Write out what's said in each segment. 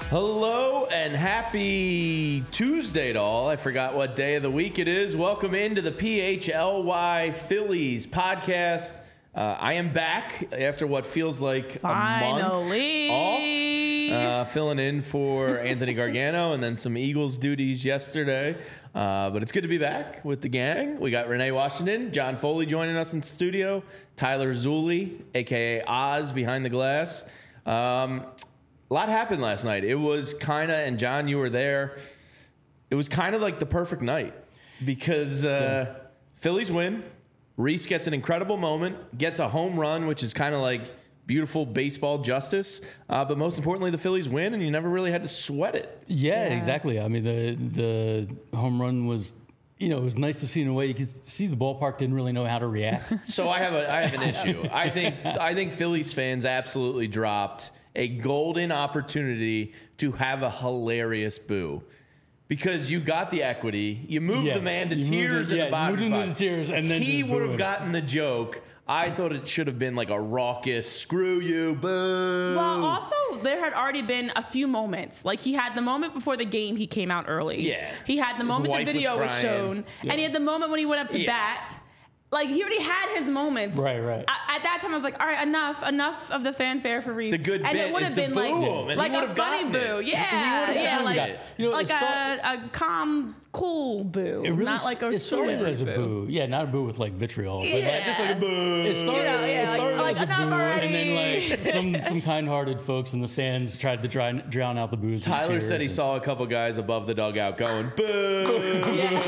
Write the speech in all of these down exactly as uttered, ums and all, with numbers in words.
Hello and happy Tuesday to all. I forgot what day of the week it is. Welcome into the P H L Y Phillies podcast. Uh, I am back after what feels like Finally. a month off, uh, filling in for Anthony Gargano and then some Eagles duties yesterday. Uh, but it's good to be back with the gang. We got Renee Washington, John Foley joining us in studio, Tyler Zulli, a k a. Oz, behind the glass. Um, a lot happened last night. It was kind of, and John, you were there, it was kind of like the perfect night because uh, yeah. Phillies win. Reese gets an incredible moment, gets a home run, which is kind of like beautiful baseball justice. Uh, but most importantly, the Phillies win, and you never really had to sweat it. Yeah, yeah, exactly. I mean, the the home run was, you know, it was nice to see in a way. You could see the ballpark didn't really know how to react. So I have a I have an issue. I think I think Phillies fans absolutely dropped a golden opportunity to have a hilarious boo. Because you got the equity, you moved yeah, the man to tears it, in yeah, the bottom spot. To tears and then he would have gotten the joke. I thought it should have been like a raucous, screw you, boo. Well, also, there had already been a few moments. Like, he had the moment before the game he came out early. Yeah. He had the His moment the video was, was shown. Yeah. And he had the moment when he went up to yeah. bat. Like, he already had his moments. Right, right. I, at that time, I was like, all right, enough, enough of the fanfare for Reese. The good and bit it would is have to been boo like, him, and like he a would've funny gotten boo. it. Yeah, yeah, like, you know, like start, a, a calm, cool boo. It really, not like a it started as a boo. boo. Yeah, not a boo with like vitriol. Yeah. But like, Just like a boo. It started, Yeah, yeah, it started like- as like, a boo, enough already. and then like some some kind-hearted folks in the stands tried to dry, drown out the boos. Tyler said he and, saw a couple guys above the dugout going, boo.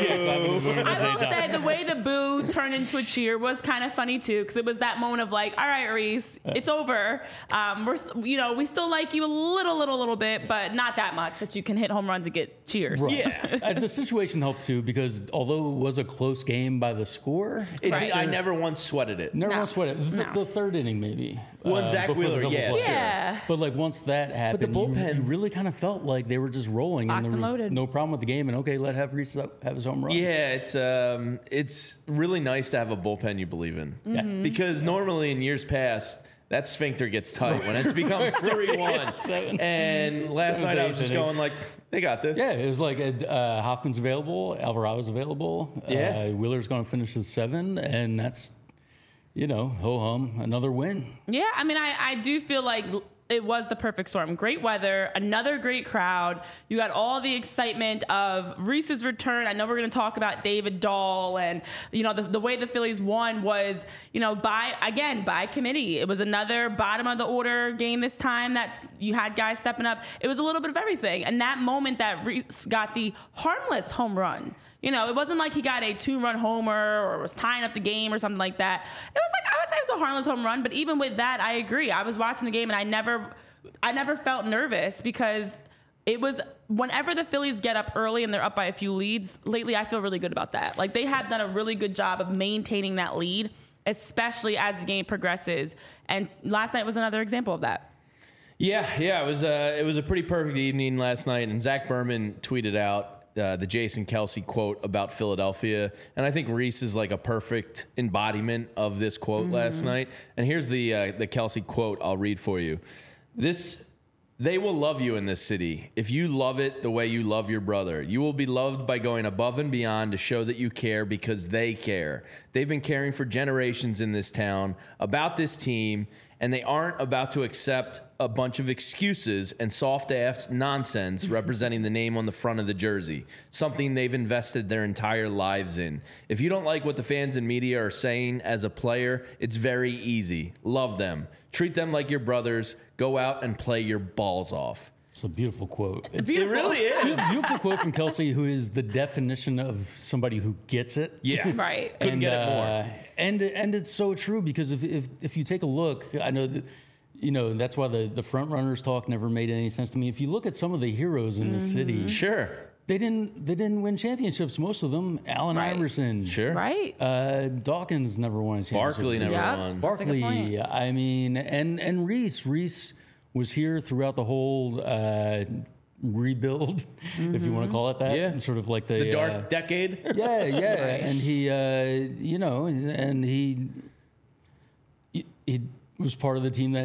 Yeah. I will say the way the boo turned into a cheer was kind of funny too, because it was that moment of like, all right, Reese, it's over. Um, we're, you know, we still like you a little, little, little bit, but not that much that you can hit home runs and get cheers. Right. Yeah. uh, the situation helped too, because although it was a close game by the score, It, Right. I never once sweated it. never No. once sweated it. The, No. the third inning maybe. One uh, Zach before the Wheeler, double yeah, play. sure. Yeah. But like once that happened, the you- bullpen- you, really kind of felt like they were just rolling, Locked and and there was loaded. no problem with the game. And okay, let have Reese have his home run. Yeah, it's um, it's really nice to have a bullpen you believe in. Yeah. Because normally in years past, that sphincter gets tight when it becomes three one. Seven. And last Seven, night I eight was just inning. going like, they got this. Yeah, it was like uh, Hoffman's available, Alvarado's available. Yeah. Uh, Wheeler's going to finish his seven, and that's, you know, ho hum, another win. Yeah, I mean, I, I do feel like it was the perfect storm. Great weather, another great crowd. You got all the excitement of Reese's return. I know we're going to talk about David Dahl, and you know the, the way the Phillies won was, you know, by again by committee. It was another bottom of the order game this time. That's you had guys stepping up. It was a little bit of everything, and that moment that Reese got the harmless home run. You know, it wasn't like he got a two-run homer or was tying up the game or something like that. It was like, I would say it was a harmless home run, but even with that, I agree. I was watching the game and I never, I never felt nervous because it was, whenever the Phillies get up early and they're up by a few leads, lately I feel really good about that. Like, they have done a really good job of maintaining that lead, especially as the game progresses. And last night was another example of that. Yeah, yeah, it was a it was a pretty perfect evening last night, and Zach Berman tweeted out uh, the Jason Kelce quote about Philadelphia, and I think Reese is like a perfect embodiment of this quote mm-hmm. last night. And here's the uh, the Kelce quote I'll read for you. This. They will love you in this city. If you love it the way you love your brother, you will be loved by going above and beyond to show that you care because they care. They've been caring for generations in this town about this team, and they aren't about to accept a bunch of excuses and soft-ass nonsense representing the name on the front of the jersey, something they've invested their entire lives in. If you don't like what the fans and media are saying as a player, it's very easy. Love them. Treat them like your brothers. Go out and play your balls off. It's a beautiful quote. It's, Beautiful. It really is. It's a beautiful quote from Kelce, who is the definition of somebody who gets it. Yeah. Right. Couldn't and, get it more. Uh, and and it's so true, because if if, if you take a look, I know that, you know, that's why the, the front runners talk never made any sense to me. If you look at some of the heroes in mm-hmm. the city, Sure. they didn't they didn't win championships. Most of them, Allen Right. Iverson, Sure. Right. Uh, Dawkins never won a championship. Barkley never Yeah. won. That's a good Barkley, point. I mean, and and Reese Reese was here throughout the whole uh, rebuild, mm-hmm. if you want to call it that. Yeah. Sort of like the The dark uh, decade. yeah, yeah, and he, uh, you know, and he, he was part of the team that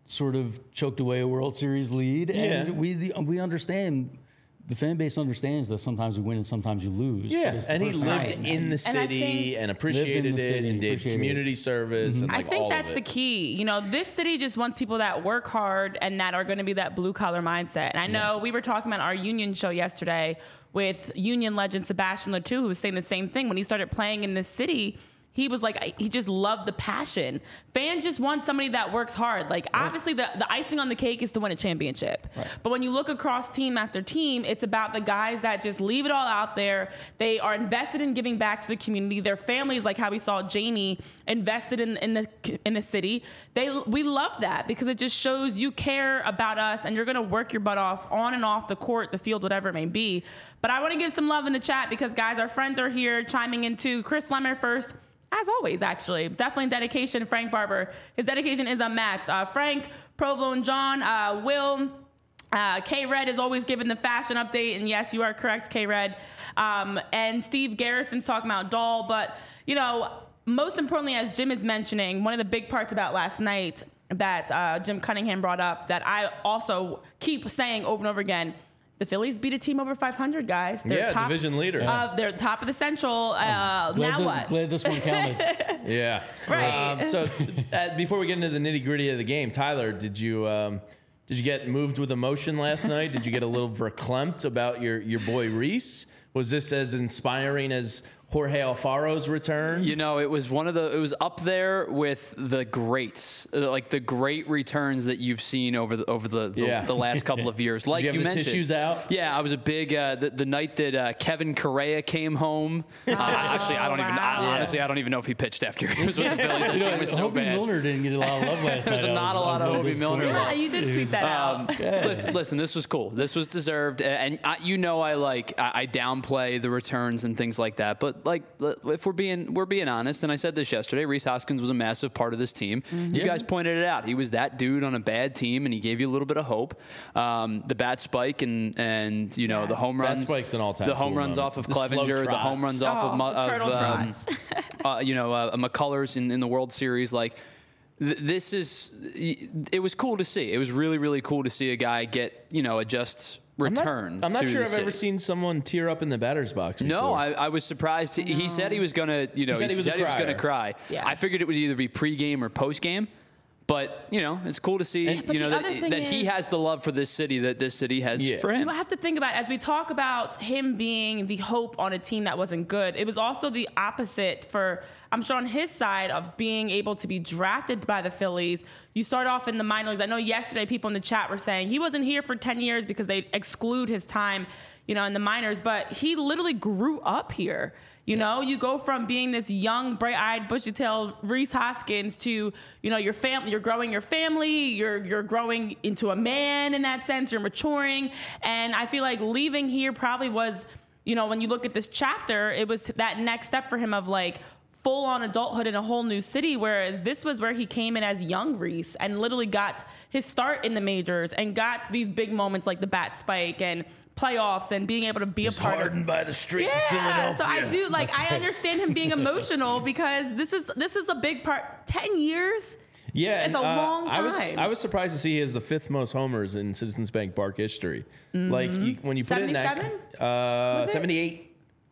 sort of choked away a World Series lead, Yeah. and we we understand. The fan base understands that sometimes you win and sometimes you lose. Yeah, but it's the and he lived personality. in the And I city think- and, appreciated the it city, and did appreciated community service and I like think all that's of the it. key. You know, this city just wants people that work hard and that are going to be that blue collar mindset. And I know we were talking about our Union show yesterday with Union legend Sebastian Latou, who was saying the same thing. When he started playing in this city, he was like, he just loved the passion. Fans just want somebody that works hard. Like, obviously, the, the icing on the cake is to win a championship. Right. But when you look across team after team, it's about the guys that just leave it all out there. They are invested in giving back to the community. Their families, like how we saw Jamie, invested in, in the in the city. They we love that because it just shows you care about us and you're going to work your butt off on and off the court, the field, whatever it may be. But I want to give some love in the chat because, guys, our friends are here chiming in too. Chris Lemmer first. As always, actually. Definitely dedication, Frank Barber. His dedication is unmatched. Uh, Frank, Provolone John, uh, Will, uh, K-Red is always giving the fashion update. And yes, you are correct, K-Red. Um, and Steve Garrison's talking about Doll. But, you know, most importantly, as Jim is mentioning, one of the big parts about last night that uh, Jim Cunningham brought up that I also keep saying over and over again, the Phillies beat a team over five hundred, guys. They're Yeah, top, division leader. Uh, they're top of the Central. Uh, Glad now that- what? Glad this one counted. Yeah. Right. Um, so uh, before we get into the nitty gritty of the game, Tyler, did you um, did you get moved with emotion last night? Did you get a little verklempt about your your boy Reese? Was this as inspiring as Jorge Alfaro's return? You know, it was one of the. It was up there with the greats, uh, like the great returns that you've seen over the over the the, Yeah. the last couple of years. Like you have the mentioned, tissues out? Yeah, I was a big uh, the, the night that uh, Kevin Correa came home. Uh, actually, I don't even. I, wow. honestly, I don't even know if he pitched after he was with the Phillies. That You know, team was so Hobie bad. Milner didn't get a lot of love last There's night. I not was- a lot I was of really Hobie Milner disappointed. love. Yeah, you did tweet that Um, out. listen, listen, this was cool. This was deserved, and I, you know, I like I, I downplay the returns and things like that. But like, if we're being we're being honest, and I said this yesterday, Rhys Hoskins was a massive part of this team. Mm-hmm. You guys pointed it out. He was that dude on a bad team, and he gave you a little bit of hope. Um, the bat spike and and you know Yes. the home Bat runs, spike's an all-time the home cool runs moment. off of The slow Clevenger, the trots. home runs off Oh, of, Mu- the turtle of um, trots. uh, you know uh, McCullers in, in the World Series, like. th- This is, it was cool to see. It was really, really cool to see a guy get, you know, a just I'm not- return. I'm not, to sure the I've ever city. seen someone tear up in the batter's box. No, before. I, I was surprised. He- He said he was gonna, you know, said he was a gonna crier. cry. Yeah. I figured it would either be pregame or postgame. But you know, it's cool to see, But you know, the that, other thing that he is- has the love for this city that this city has Yeah. for him. You have to think about, as we talk about him being the hope on a team that wasn't good, it was also the opposite for, I'm sure on his side of being able to be drafted by the Phillies. You start off in the minor leagues. I know yesterday people in the chat were saying he wasn't here for ten years because they exclude his time, you know, in the minors, but he literally grew up here. You know, you go from being this young, bright-eyed, bushy-tailed Rhys Hoskins to, you know, your family. You're growing your family. You're you're growing into a man in that sense. You're maturing, and I feel like leaving here probably was, you know, when you look at this chapter, it was that next step for him of like full-on adulthood in a whole new city. Whereas this was where he came in as young Rhys and literally got his start in the majors and got these big moments like the bat spike and playoffs and being able to be He's a part hardened of. by the streets of Yeah, Philadelphia. so I do like I understand him being emotional because this is this is a big part. Ten years. Yeah, It's and, a uh, long I was time. I was surprised to see he has the fifth most homers in Citizens Bank Park history. Like you, when you put it in that seventy-seven? uh, Was it? seventy-eight.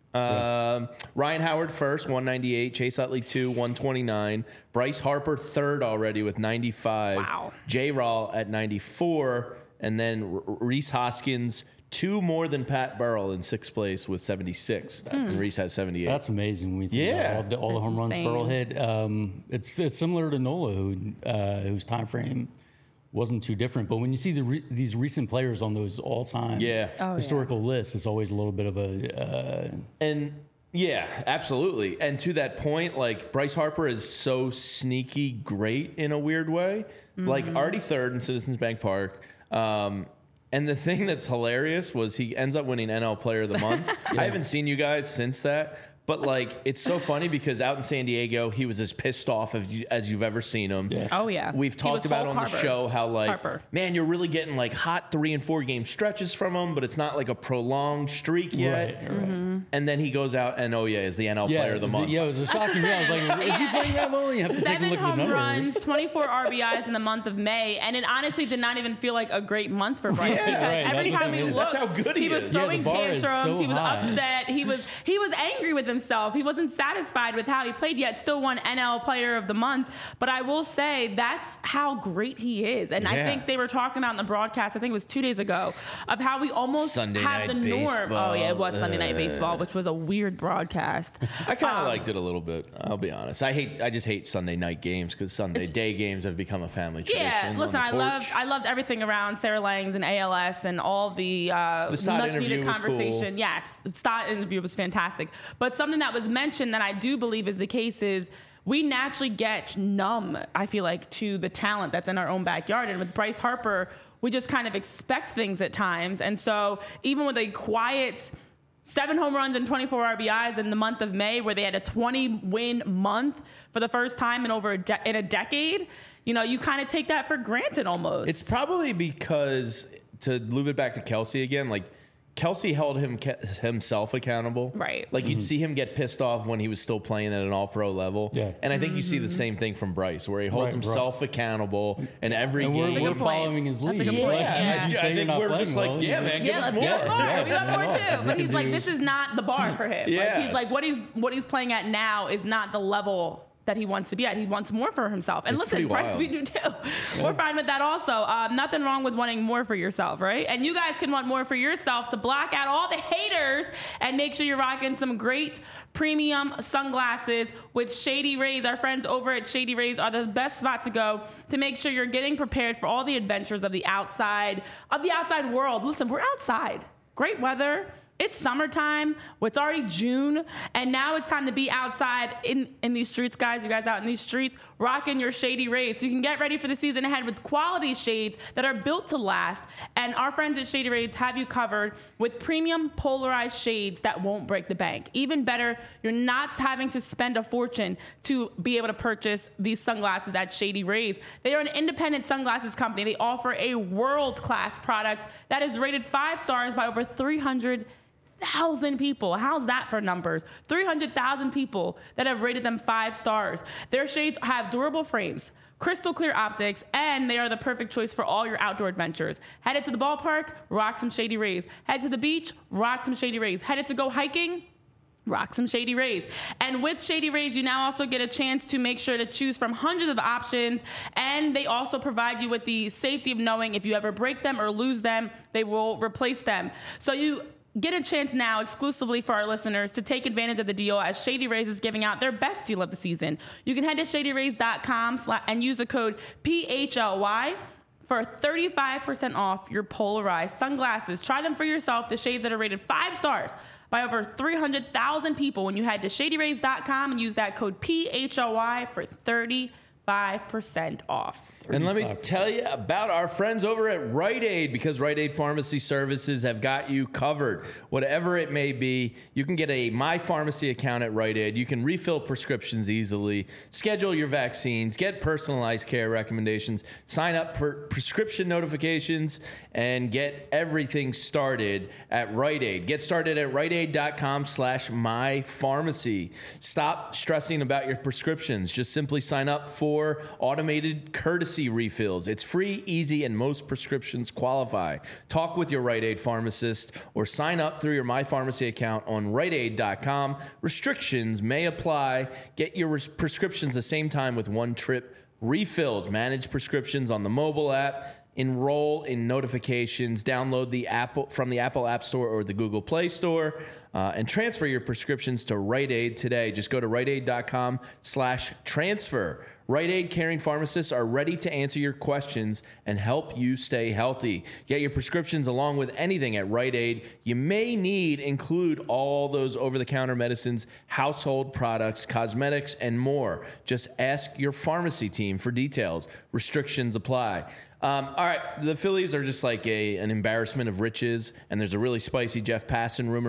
Um, Ryan Howard first, one ninety-eight. Chase Utley two, one twenty-nine. Bryce Harper third already with ninety-five. Wow. J. Rawl at ninety-four, and then R- Rhys Hoskins two more than Pat Burrell in sixth place with seventy-six. And Rhys has seventy-eight. That's amazing. When we think Yeah. about all the, all the That's home runs insane. Burrow hit. Um, it's it's similar to Nola, who uh, whose time frame wasn't too different. But when you see the re- these recent players on those all time Yeah. Oh, yeah. historical lists, it's always a little bit of a uh, And yeah, absolutely. And to that point, like Bryce Harper is so sneaky great in a weird way. Like already third in Citizens Bank Park. Um, and the thing that's hilarious was he ends up winning N L Player of the Month. I haven't seen you guys since that. But like, it's so funny because out in San Diego, he was as pissed off as, you, as you've ever seen him. Yeah. Oh yeah, We've He talked was about Hulk on the Harper. show how like, Harper. man, you're really getting like hot three and four game stretches from him, but it's not like a prolonged streak yet. Right, right. Mm-hmm. And then he goes out and oh yeah, is the N L Yeah, Player of the Month. Yeah, it was a shocking. I was like, is he playing that well? You have to take a Seven look at the home numbers. runs, twenty-four R B Is in the month of May, and it honestly did not even feel like a great month for Bryce Yeah, because right, every that's time we amazing. looked, That's how good he was is. Yeah, the throwing bar is tantrums. so he was high. upset. He was he was angry with himself. He wasn't satisfied with how he played. Yet still won N L Player of the Month. But I will say that's how great he is. And I Yeah. think they were talking about in the broadcast. I think it was two days ago of how we almost Sunday have the Night norm. Baseball. Oh yeah, it was Sunday Night Uh. Baseball, which was a weird broadcast. I kind of Um, liked it a little bit. I'll be honest. I hate. I just hate Sunday night games because Sunday day games have become a family tradition. Yeah, on listen, the I porch. loved I loved everything around Sarah Langs and A L S and all the, uh, The Stott much needed interview was conversation. cool. Yes, the Stott interview was fantastic. But something that was mentioned that I do believe is the case is we naturally get numb, I feel like, to the talent that's in our own backyard. And with Bryce Harper, we just kind of expect things at times. And so even with a quiet seven home runs and twenty-four R B Is in the month of May, where they had a twenty-win month for the first time in over a de- in a decade, you know, you kind of take that for granted almost. It's probably because to move it back to Kelsey again, like Kelsey held him himself accountable. Right. Like you'd see him get pissed off when he was still playing at an all-pro level. Yeah. And I think you see the same thing from Bryce, where he holds Right, himself accountable in every And game. we're, That's a we're good point. following his That's a lead. good point. Like, Yeah. if you I say think you're not we're playing just like, well, yeah, you- man, give yeah, us let's more. give us more. Yeah, we got yeah, more no, too. we But he's can like, do- this is not the bar for him. Yeah, Like he's like, it's- what he's what he's playing at now is not the level that he wants to be at. He wants more for himself. And It's listen, pretty Bryce, wild. we do too. We're fine with that also. Um, nothing wrong with wanting more for yourself, right? And you guys can want more for yourself to block out all the haters and make sure you're rocking some great premium sunglasses with Shady Rays. Our friends over at Shady Rays are the best spot to go to make sure you're getting prepared for all the adventures of the outside, of the outside world. Listen, we're outside. Great weather. It's summertime. Well, it's already June, and now it's time to be outside in, in these streets, guys. You guys out in these streets, rocking your Shady Rays. So you can get ready for the season ahead with quality shades that are built to last. And our friends at Shady Rays have you covered with premium polarized shades that won't break the bank. Even better, you're not having to spend a fortune to be able to purchase these sunglasses at Shady Rays. They are an independent sunglasses company. They offer a world-class product that is rated five stars by over three hundred thousand people. How's that for numbers? three hundred thousand people that have rated them five stars. Their shades have durable frames, crystal clear optics, and they are the perfect choice for all your outdoor adventures. Headed to the ballpark? Rock some Shady Rays. Head to the beach? Rock some Shady Rays. Headed to go hiking? Rock some Shady Rays. And with Shady Rays, you now also get a chance to make sure to choose from hundreds of options. And they also provide you with the safety of knowing if you ever break them or lose them, they will replace them. So you get a chance now exclusively for our listeners to take advantage of the deal as Shady Rays is giving out their best deal of the season. You can head to shady rays dot com and use the code P H L Y for thirty-five percent off your polarized sunglasses. Try them for yourself, the shades that are rated five stars by over three hundred thousand people when you head to shady rays dot com and use that code P H L Y for thirty-five percent off. And let me tell you about our friends over at Rite Aid, because Rite Aid Pharmacy Services have got you covered. Whatever it may be, you can get a My Pharmacy account at Rite Aid. You can refill prescriptions easily, schedule your vaccines, get personalized care recommendations, sign up for prescription notifications, and get everything started at Rite Aid. Get started at rite aid dot com slash my pharmacy. Stop stressing about your prescriptions. Just simply sign up for automated courtesy refills. It's free, easy, and most prescriptions qualify. Talk with your Rite Aid pharmacist or sign up through your My Pharmacy account on rite aid dot com. Restrictions may apply. Get your res- prescriptions the same time with one trip refills. Manage prescriptions on the mobile app. Enroll in notifications. Download the Apple from the Apple App Store or the Google Play Store, uh, and transfer your prescriptions to Rite Aid today. Just go to rite aid dot com slash transfer. Rite Aid caring pharmacists are ready to answer your questions and help you stay healthy. Get your prescriptions along with anything at Rite Aid you may need. Include all those over-the-counter medicines, household products, cosmetics, and more. Just ask your pharmacy team for details. Restrictions apply. Um, all right, the Phillies are just like a an embarrassment of riches, and there's a really spicy Jeff Passan rumor we got to get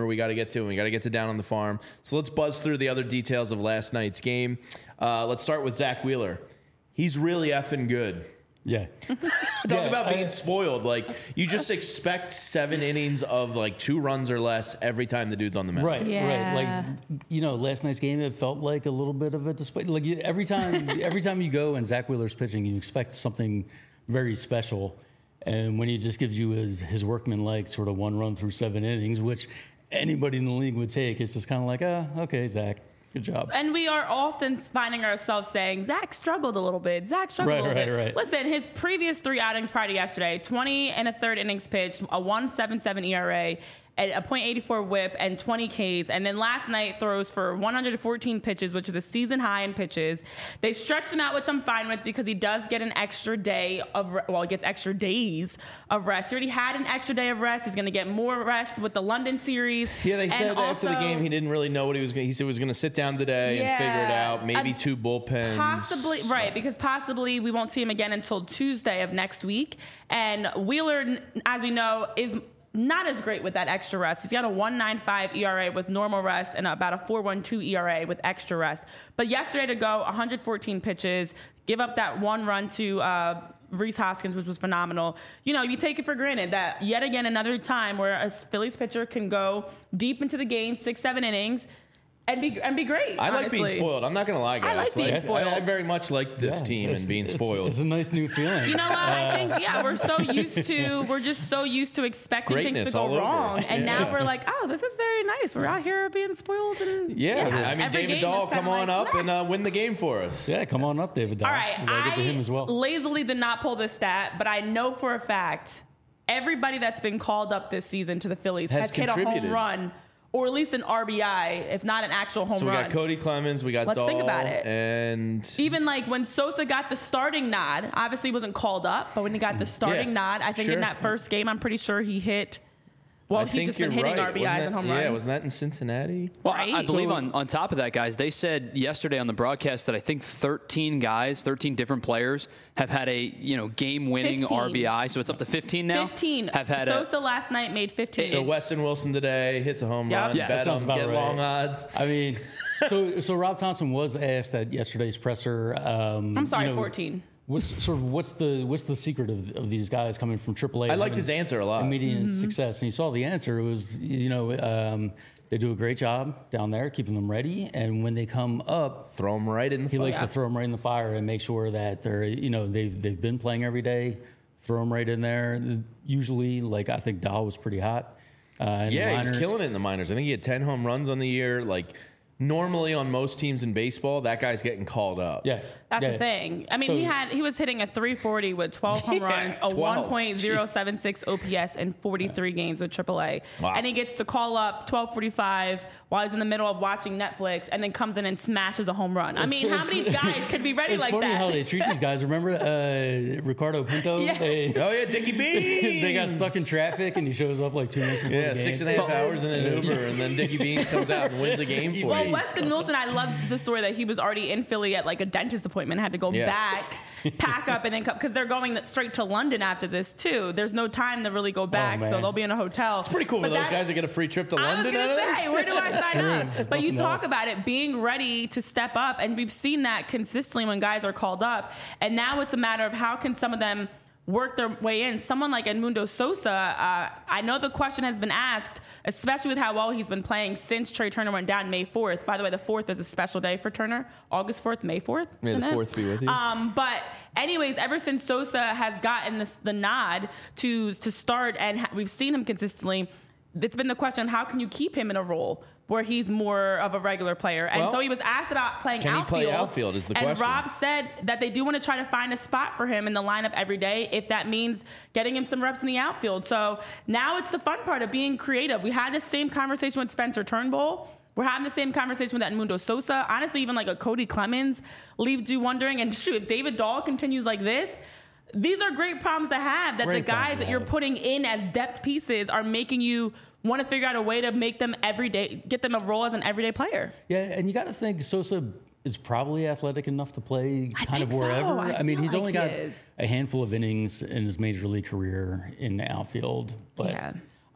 get to, and we got to get to Down on the Farm. So let's buzz through the other details of last night's game. Uh, let's start with Zach Wheeler. He's really effing good. Yeah. Talk Yeah, about being I- spoiled. Like, you just expect seven innings of like two runs or less every time the dude's on the mound. Right, Yeah. right. Like, you know, last night's game, it felt like a little bit of a display. Like you, every time, every time you go and Zach Wheeler's pitching, you expect something very special. And when he just gives you his his workman-like sort of one run through seven innings, which anybody in the league would take, it's just kind of like, ah, okay, Zach, good job. And we are often finding ourselves saying, Zach struggled a little bit. Zach struggled Right, a little right, bit. right. Listen, his previous three outings prior to yesterday, twenty and a third innings pitched, a one point seven seven E R A, a point eight four whip, and twenty Ks. And then last night throws for one hundred fourteen pitches, which is a season high in pitches. They stretched him out, which I'm fine with because he does get an extra day of, re- well, he gets extra days of rest. He already had an extra day of rest. He's going to get more rest with the London series. Yeah, they And said after the also- game he didn't really know what he was going to. He said he was going to sit down today and figure it Yeah. out. Maybe And two bullpens. Possibly, right, because possibly we won't see him again until Tuesday of next week. And Wheeler, as we know, is not as great with that extra rest. He's got a one point nine five E R A with normal rest and about a four point one two E R A with extra rest. But yesterday to go, one hundred fourteen pitches, give up that one run to uh, Rhys Hoskins, which was phenomenal. You know, you take it for granted that yet again another time where a Phillies pitcher can go deep into the game, six, seven innings, and be and be great. I like being honestly. spoiled. I'm not going to lie, guys. like being I- spoiled. I, very much like this Yeah, team it's- and being it's- spoiled. It's a nice new feeling. You know what? I think, yeah, we're so used to, we're just so used to expecting Greatness things to all go over. wrong. And Yeah. now we're like, oh, this is very nice. We're out here being spoiled. And yeah, I mean, every David game Dahl, is kinda come on like, up and uh, win the game for us. Yeah, come on up, David. Dahl. all right, We gotta get to him I as well. lazily did not pull this stat, but I know for a fact everybody that's been called up this season to the Phillies Has has, hit a home contributed. run or at least an R B I, if not an actual home So we run. got Cody Clemens, we got Let's Dahl, think about it. and Even like when Sosa got the starting nod, obviously he wasn't called up, but when he got the starting Yeah, nod, I think sure. in that first game, I'm pretty sure he hit. Well, I he's think just been you're hitting right. R B Is Wasn't and that- home Yeah, runs. wasn't that in Cincinnati? Well, I- I Right. believe So- on, on top of that, guys, they said yesterday on the broadcast that I think thirteen guys, thirteen different players have had a you know game-winning fifteen. R B I. So it's up to fifteen now. fifteen. have had a, Sosa last night made fifteen. So It's- Weston Wilson today hits a home Yep. run. Yes. Bet Sounds him, about get right. long odds. I mean, so so Rob Thompson was asked at yesterday's presser. Um, I'm sorry, you know, fourteen. What's sort of what's the what's the secret of, of these guys coming from triple A? I liked having his answer a lot. Immediate Mm-hmm. success, and you saw the answer. It was you know um, they do a great job down there keeping them ready, and when they come up, Throw him right in the he fire. likes to throw them right in the fire and make sure that they're you know they've they've been playing every day. Throw them right in there. Usually, like I think Dahl was pretty hot. Uh, in the Yeah, he was minors. killing it in the minors. I think he had ten home runs on the year. Like, normally on most teams in baseball, that guy's getting called up. Yeah, That's yeah. the thing. I mean, So- he had he was hitting a three forty with twelve home Yeah, runs, a twelve. one point oh seven six O P S, and forty-three games with triple A. Wow. And he gets to call up twelve forty-five while he's in the middle of watching Netflix, and then comes in and smashes a home run. I mean, how many guys could be ready It's like funny that? how they treat these guys. Remember uh, Ricardo Pinto? Yeah. They, Oh yeah, Dickie Beans. they got stuck in traffic, and he shows up like two minutes before Yeah, the game. six and a half hours in an Uber, and then Dickie Beans comes out and wins a game for Well, you. Weston Wilson, I love the story that he was already in Philly at like a dentist appointment, had to go Yeah. back, pack up, and then come because they're going straight to London after this too. There's no time to really go back, so man. they'll be in a hotel. It's Pretty cool for those guys that get a free trip to I was London. gonna out of this. say, where do I sign true. up? But you Nothing talk else. about it being ready to step up, and we've seen that consistently when guys are called up. And now it's a matter of how can some of them work their way in. Someone like Edmundo Sosa, uh, I know the question has been asked, especially with how well he's been playing since Trey Turner went down May fourth. By the way, the fourth is a special day for Turner. August fourth, May fourth. May the isn't it? fourth be with you. Um, but anyways, ever since Sosa has gotten this, the nod to to start, and ha- we've seen him consistently, it's been the question: how can you keep him in a role where he's more of a regular player? And Well, so he was asked about playing can he outfield. play outfield is the and question. Rob said that they do want to try to find a spot for him in the lineup every day, if that means getting him some reps in the outfield. So now it's the fun part of being creative. We had the same conversation with Spencer Turnbull. We're having the same conversation with Edmundo Sosa. Honestly, even like a Cody Clemens leaves you wondering. And shoot, if David Dahl continues like this, these are great problems to have, that Great the guys problems that to you're have. putting in as depth pieces are making you want to figure out a way to make them everyday, get them a role as an everyday player. Yeah, and you got to think Sosa is probably athletic enough to play I kind of think so. wherever. I mean, feel he's like only he got is. a handful of innings in his major league career in the outfield, but Yeah.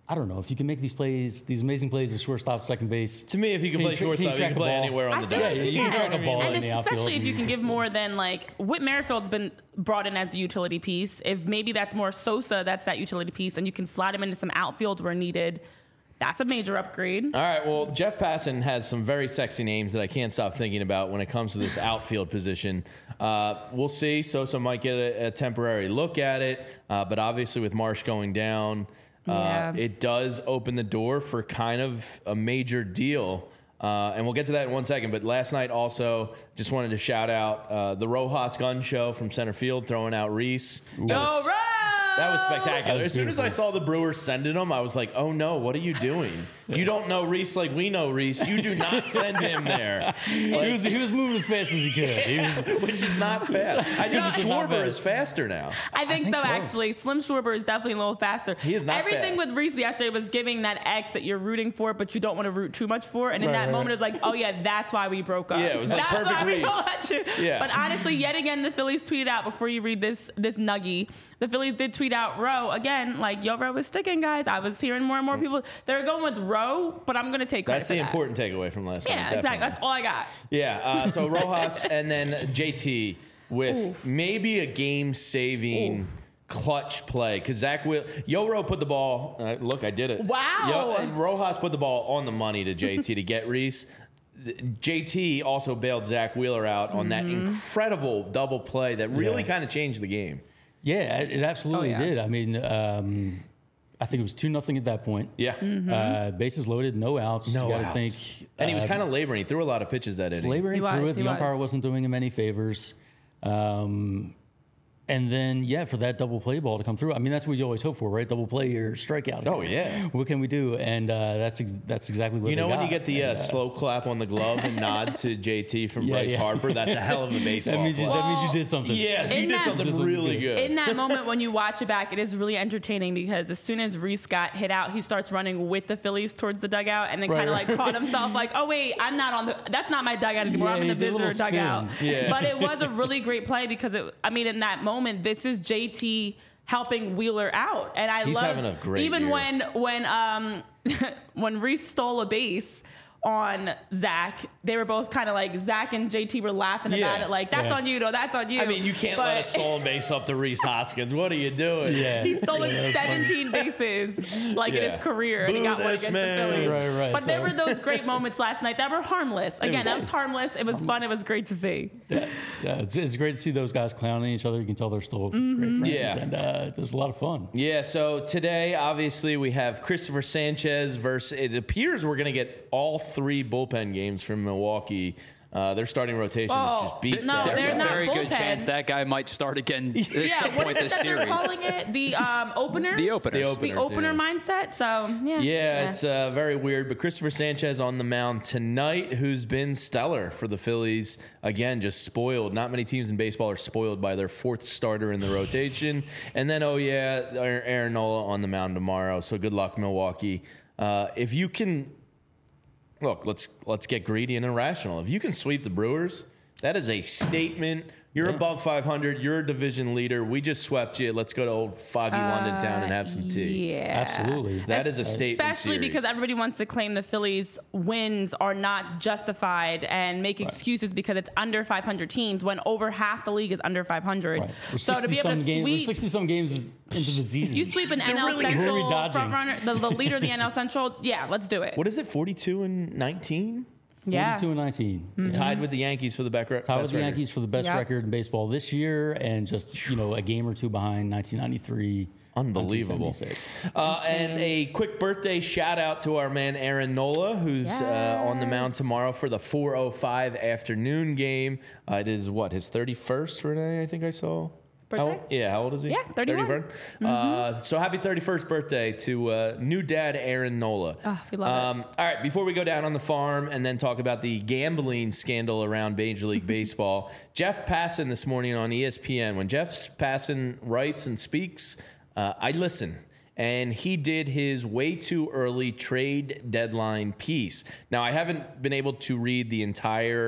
I don't know if you can make these plays, these amazing plays at shortstop, second base. To me, if you can Can play you tra- shortstop, can you you can track the play ball? anywhere on I the think- diamond. Yeah, you can yeah. track a ball And in the if- outfield. especially if you can give more than like Whit Merrifield's been brought in as the utility piece. If maybe that's more Sosa, that's that utility piece, and you can slide him into some outfield where needed. That's a major upgrade. All right, well, Jeff Passan has some very sexy names that I can't stop thinking about when it comes to this outfield position. Uh, we'll see. Sosa might get a, a temporary look at it, uh, but obviously with Marsh going down, uh, Yeah. it does open the door for kind of a major deal. Uh, and we'll get to that in one second. But last night also, just wanted to shout out uh, the Rojas Gun Show from center field, throwing out Reese. That Go was- Reds! That was spectacular. That was as soon as I beautiful. saw the Brewers sending him, I was like, oh no, what are you doing? You don't know Reese like we know Reese. You do not send him there. he, was, he was moving as fast as he could. He was, Which is not fast. I think Which is not Schwarber fast. is faster now. I think, think so, so. actually. Slim Schwarber is definitely a little faster. He is not Everything fast. with Reese yesterday was giving that X that you're rooting for, but you don't want to root too much for. And in Right, that right, moment, right. it's like, oh, yeah, that's why we broke up. Yeah, it was like that's perfect why we Reese. don't let you. Yeah. But honestly, yet again, the Phillies tweeted out before you read this this nuggie. The Phillies did tweet out Rowe again, like, yo, Rowe was sticking, guys. I was hearing more and more people. They're going with Rowe, but I'm going to take credit That's for the that. important takeaway from last Yeah, night. exactly. definitely. That's all I got. Yeah, uh, so Rojas and then J T with maybe a game-saving clutch play because Zach Will Yoro put the ball. Uh, look, I did it. Wow. Yo, and Rojas put the ball on the money to J T to get Reese. J T also bailed Zach Wheeler out on that Mm-hmm. incredible double play that really Yeah. kind of changed the game. yeah, it, it absolutely Oh, yeah. did. I mean, um, I think it was two nothing at that point. Yeah, Mm-hmm. Uh, bases loaded, no outs. no you gotta outs. think, and he was uh, kind of laboring. He threw a lot of pitches that inning. laboring He was, through it. he The umpire was. wasn't doing him any favors. Um, and then, yeah, for that double play ball to come through, I mean, that's what you always hope for, right? Double play or strikeout. Oh, yeah. What can we do? And uh, that's ex- that's exactly what You know they when you got. get the uh, And, uh, slow clap on the glove and nod to J T from Yeah, Bryce yeah. Harper? That's a hell of a baseball that means you, play. that means you Well, did something. Yes, you In did that- something This was really good. good. In that moment, when you watch it back, it is really entertaining because as soon as Reese got hit out, he starts running with the Phillies towards the dugout and then Right, kind of right. like caught himself like, oh, wait, I'm not on the, that's not my dugout anymore. Yeah, I'm in the he did a visitor little spin. dugout. Yeah. But it was a really great play because, it, I mean, in that moment, this is J T helping Wheeler out. And I He's loved, having a great even year. when, when, um, when Reese stole a base on Zach, they were both kind of like, Zach and J T were laughing Yeah. about it. Like, that's Yeah. on you, though. That's on you. I mean, you can't let a But- stolen base up to Reese Hoskins. What are you doing? Yeah. He's stolen Yeah, that's funny. seventeen bases like in Yeah. his career, and he Boo got one this against man. the Phillies. Right, right, But there so- were those great moments last night that were harmless. Again, was- that was harmless. It was fun. It was great to see. Yeah, yeah it's, it's great to see those guys clowning each other. You can tell they're still great friends. Yeah. And uh, there's a lot of fun. Yeah, so today, obviously, we have Christopher Sanchez versus, it appears we're going to get all three bullpen games from Milwaukee. Uh, their starting rotation is Oh, just beat no, down. There's they're a not very good bullpen. chance that guy might start again at Yeah, some what point is it this that they're series. calling it? The um, opener? The openers. The The openers, opener yeah. mindset. So, yeah. Yeah, it's uh, very weird. But Christopher Sanchez on the mound tonight, who's been stellar for the Phillies. Again, just spoiled. Not many teams in baseball are spoiled by their fourth starter in the rotation. And then, oh, yeah, Aaron Nola on the mound tomorrow. So good luck, Milwaukee. Uh, if you can, look, let's let's get greedy and irrational. If you can sweep the Brewers, that is a statement. You're above five hundred. You're a division leader. We just swept you. Let's go to old foggy London town and have some tea. Yeah. Absolutely. That is a statement. Especially series. because everybody wants to claim the Phillies' wins are not justified and make excuses because it's under five hundred teams when over half the league is under five hundred. Right. We're So to be able to sixty-some games, we're sweep, sixty-some games into the season. you sweep an N L really- who are we Central dodging? front runner, the, the leader of the N L Central. Yeah, let's do it. What is it, forty-two and nineteen? Yeah. forty-two and nineteen. Tied with the Yankees for the back Tied with the Yankees for the best Yep. record in baseball this year, and just you know a game or two behind nineteen ninety-three. Unbelievable. nineteen seventy-six. Uh, and a quick birthday shout out to our man Aaron Nola, who's uh, on the mound Yes. tomorrow for the four oh five afternoon game. Uh, it is what, his thirty-first, Renee, I think I saw? How, Birthday? yeah, how old is he? Yeah, thirty-one. thirty-one? Uh, so happy thirty-first birthday to uh, new dad Aaron Nola. Oh, we love um, All right, before we go down on the farm and then talk about the gambling scandal around Major League Baseball, Jeff Passan this morning on E S P N. When Jeff Passan writes and speaks, uh, I listen. And he did his way too early trade deadline piece. Now, I haven't been able to read the entire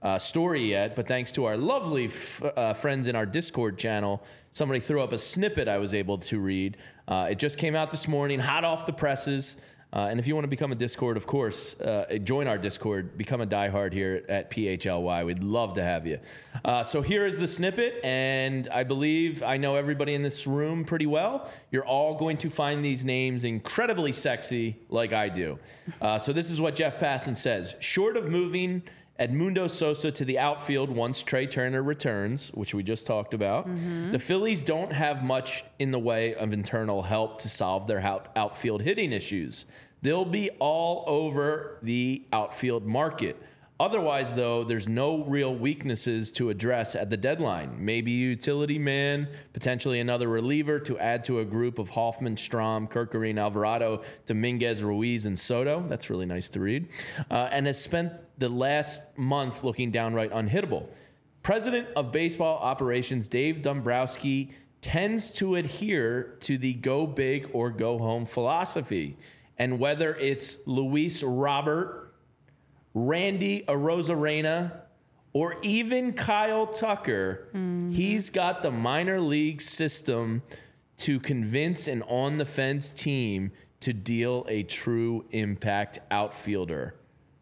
uh, story yet, but thanks to our lovely f- uh, friends in our Discord channel, somebody threw up a snippet I was able to read. Uh, it just came out this morning, hot off the presses. Uh, and if you want to become a Discord, of course, uh, join our Discord, become a diehard here at P H L Y. We'd love to have you. Uh, so here is the snippet, and I believe I know everybody in this room pretty well. You're all going to find these names incredibly sexy like I do. Uh, so this is what Jeff Passan says. Short of moving Edmundo Sosa to the outfield once Trey Turner returns, which we just talked about, mm-hmm. the Phillies don't have much in the way of internal help to solve their out- outfield hitting issues. They'll be all over the outfield market. Otherwise, though, there's no real weaknesses to address at the deadline. Maybe a utility man, potentially another reliever to add to a group of Hoffman, Strahm, Kirkering, Alvarado, Dominguez, Ruiz, and Soto. That's really nice to read. Uh, and has spent the last month looking downright unhittable. President of Baseball Operations Dave Dombrowski tends to adhere to the go big or go home philosophy. And whether it's Luis Robert, Randy Arozarena, or even Kyle Tucker, mm-hmm. he's got the minor league system to convince an on-the-fence team to deal a true impact outfielder.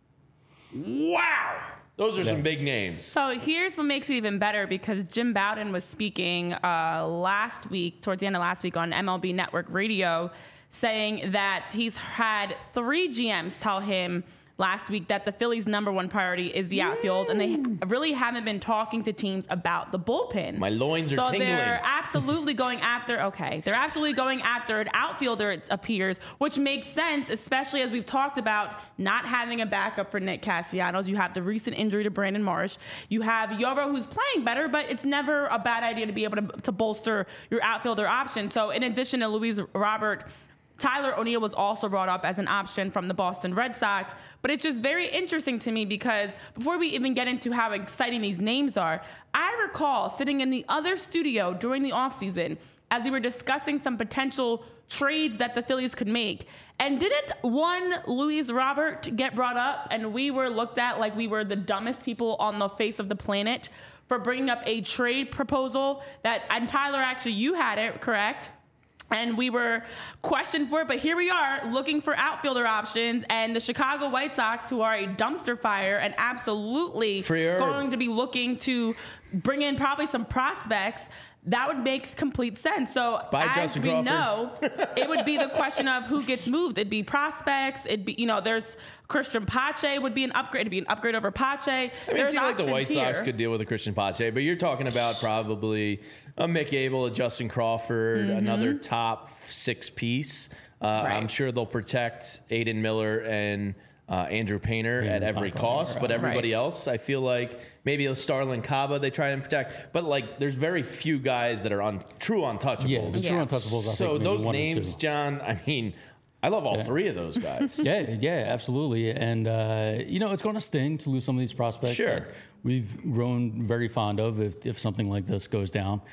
Wow! Those are yeah. some big names. So here's what makes it even better, because Jim Bowden was speaking uh, last week, towards the end of last week on M L B Network Radio, saying that he's had three G Ms tell him last week that the Phillies' number one priority is the outfield, and they really haven't been talking to teams about the bullpen. My loins are so tingling. So they're absolutely going after, okay, they're absolutely going after an outfielder, it appears, which makes sense, especially as we've talked about not having a backup for Nick Castellanos. You have the recent injury to Brandon Marsh. You have Yoro, who's playing better, but it's never a bad idea to be able to, to bolster your outfielder option. So in addition to Luis Robert, Tyler O'Neill was also brought up as an option from the Boston Red Sox. But it's just very interesting to me, because before we even get into how exciting these names are, I recall sitting in the other studio during the offseason as we were discussing some potential trades that the Phillies could make. And didn't one Luis Robert get brought up, and we were looked at like we were the dumbest people on the face of the planet for bringing up a trade proposal that, and Tyler, actually, you had it, correct? And we were questioned for it, but here we are looking for outfielder options, and the Chicago White Sox, who are a dumpster fire and absolutely Freer. going to be looking to bring in probably some prospects, that would make complete sense. So Bye, as Justin we Crawford. know, it would be the question of who gets moved. It'd be prospects. It'd be, you know, there's Christian Pache would be an upgrade. It'd be an upgrade over Pache. I mean, there's it seems like the White here. Sox could deal with a Christian Pache, but you're talking about probably a Mick Abel, a Justin Crawford, mm-hmm. another top six piece. Uh, right. I'm sure they'll protect Aiden Miller and uh, Andrew Painter yeah, at every cost, but everybody right. else, I feel like maybe a Starlin Caba they try and protect. But like, there's very few guys that are on true untouchables. Yeah, the yeah. true untouchables. I So think those one names, John, I mean, I love all yeah. three of those guys. yeah, yeah, absolutely. And, uh, you know, it's going to sting to lose some of these prospects Sure. that we've grown very fond of if, if something like this goes down.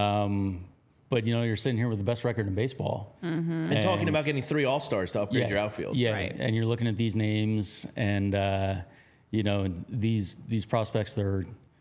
Um, but, you know, you're sitting here with the best record in baseball. Mm-hmm. And, and talking about getting three All-Stars to upgrade yeah, your outfield. Yeah, Right. and you're looking at these names and, uh, you know, these these prospects, they're,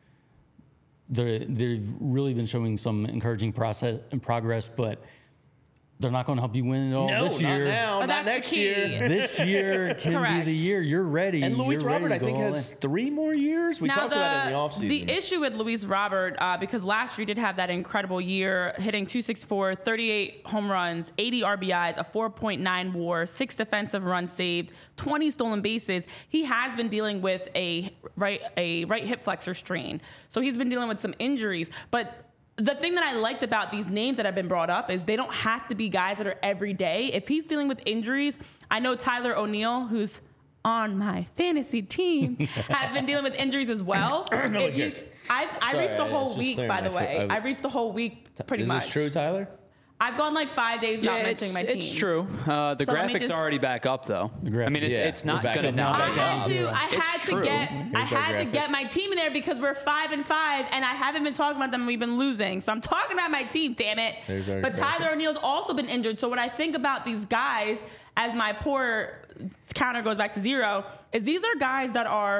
they're, they've really been showing some encouraging process and progress, but they're not going to help you win it all No, this not year. now, But not that's the next key. year. This year can be Correct. the year. You're ready. And Luis You're ready Robert, to I think, go all has in. three more years. We Now, talked the, about it in the offseason. The issue with Luis Robert, uh, because last year he did have that incredible year, hitting two sixty-four, thirty-eight home runs, eighty R B Is, a four point nine WAR, six defensive runs saved, twenty stolen bases. He has been dealing with a right a right hip flexor strain, so he's been dealing with some injuries, but. The thing that I liked about these names that have been brought up is they don't have to be guys that are every day. If he's dealing with injuries, I know Tyler O'Neill, who's on my fantasy team, has been dealing with injuries as well. No, If you- yes. I, I Sorry, reached the I- whole it's just week, clearing by my the way. throat. I- I reached the whole week pretty Is much. this true, Tyler? I've gone like five days without Yeah, it's, mentioning my team. it's true. Uh, the So let me graphics just- are already back up, though. graphics. I mean, it's, Yeah, it's not we're back going to up not now. I back had up. to. I It's had true. to get. I Here's our had to graphic. get my team in there because we're five and five, and I haven't been talking about them. And we've been losing, so I'm talking about my team. Damn it! There's our But graphic. Tyler O'Neill's also been injured. So when I think about these guys, as my poor counter goes back to zero, is these are guys that are,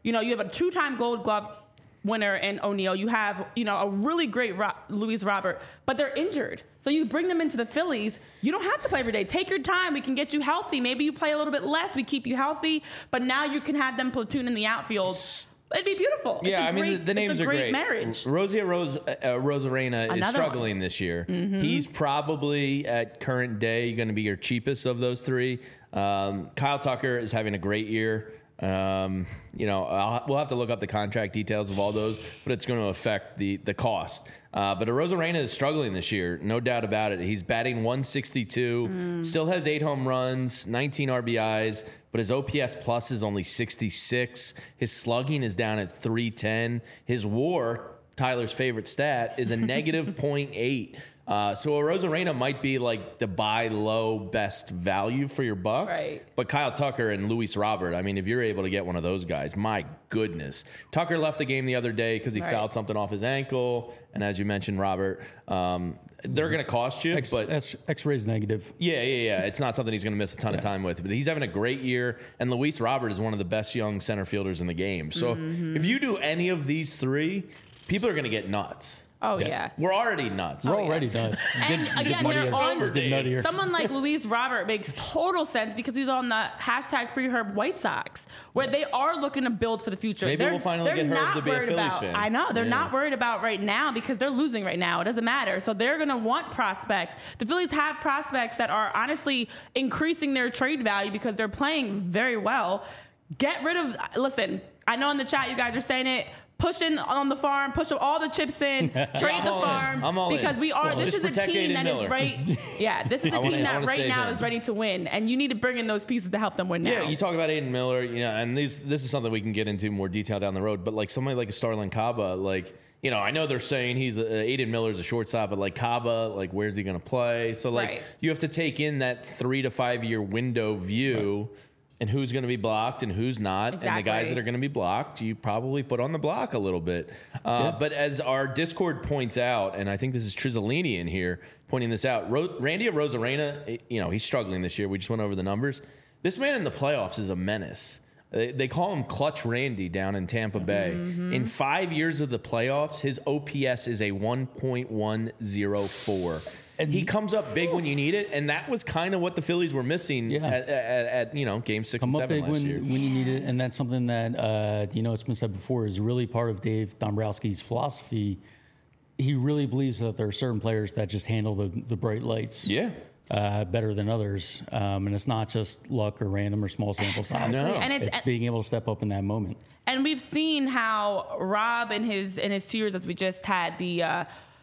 You know, you have a two-time Gold Glove winner in O'Neal. You have, you know, a really great Ro- Luis Robert, but they're injured. So you bring them into the Phillies. You don't have to play every day. Take your time. We can get you healthy. Maybe you play a little bit less. We keep you healthy. But now you can have them platoon in the outfield. It'd be beautiful. Yeah, I mean, great, the, the names it's a are great great. Marriage. Rosie Rose, uh, Rosarena is struggling one. this year. Mm-hmm. He's probably, at current day, going to be your cheapest of those three. Um, Kyle Tucker is having a great year. Um, you know, I'll, we'll have to look up the contract details of all those, but it's going to affect the the cost. Uh, but Rosarena is struggling this year, no doubt about it. He's batting one sixty-two, mm. still has eight home runs, nineteen R B Is, but his O P S plus is only sixty-six. His slugging is down at three ten. His WAR, Tyler's favorite stat, is a negative point eight. Uh, so a Rosarena might be like the buy low best value for your buck. Right. But Kyle Tucker and Luis Robert, I mean, if you're able to get one of those guys, my goodness. Tucker left the game the other day because he right. fouled something off his ankle. And as you mentioned, Robert, um, they're going to cost you. X, but X, X-ray's negative. Yeah, yeah, yeah. It's not something he's going to miss a ton yeah. of time with. But he's having a great year. And Luis Robert is one of the best young center fielders in the game. So mm-hmm. if you do any of these three, people are going to get nuts. Oh, yeah. yeah. We're already nuts. We're oh, already yeah. nuts. And get, again, get they're on, over, get someone like Luis Robert makes total sense because he's on the hashtag Free Herb White Sox, where they are looking to build for the future. Maybe they're, we'll finally they're get Herb to be a Phillies about, fan. I know. They're yeah. not worried about right now because they're losing right now. It doesn't matter. So they're going to want prospects. The Phillies have prospects that are honestly increasing their trade value because they're playing very well. Get rid of, listen, I know in the chat you guys are saying it, pushing on the farm, push all the chips in, trade yeah, the all farm. In. I'm all because in. we are. So, this is a team that Miller. is right. Just, yeah, this is a team wanna, that right now him. is ready to win, and you need to bring in those pieces to help them win now. Yeah, you talk about Aiden Miller, you know, and these this is something we can get into more detail down the road. But like somebody like a Starlin Caba, like you know, I know they're saying he's a, Aiden Miller's a shortstop, but like Caba, like where's he going to play? So like right. you have to take in that three to five year window view. Right. And who's going to be blocked and who's not. Exactly. And the guys that are going to be blocked, you probably put on the block a little bit. Uh, yeah. But as our Discord points out, and I think this is Trizzolini in here pointing this out, Ro- Randy Rosarena, you know, he's struggling this year. We just went over the numbers. This man in the playoffs is a menace. They, they call him Clutch Randy down in Tampa Bay. Mm-hmm. In five years of the playoffs, his O P S is a one point one oh four. And he comes up big when you need it, and that was kind of what the Phillies were missing yeah. at, at, at you know game six Come and up seven big last when, year. when you need it, and that's something that uh, you know it's been said before is really part of Dave Dombrowski's philosophy. He really believes that there are certain players that just handle the, the bright lights, yeah. uh, better than others, um, and it's not just luck or random or small sample size. No. And it's, it's being able to step up in that moment. And we've seen how Rob in his in his two years, as we just had the. Uh,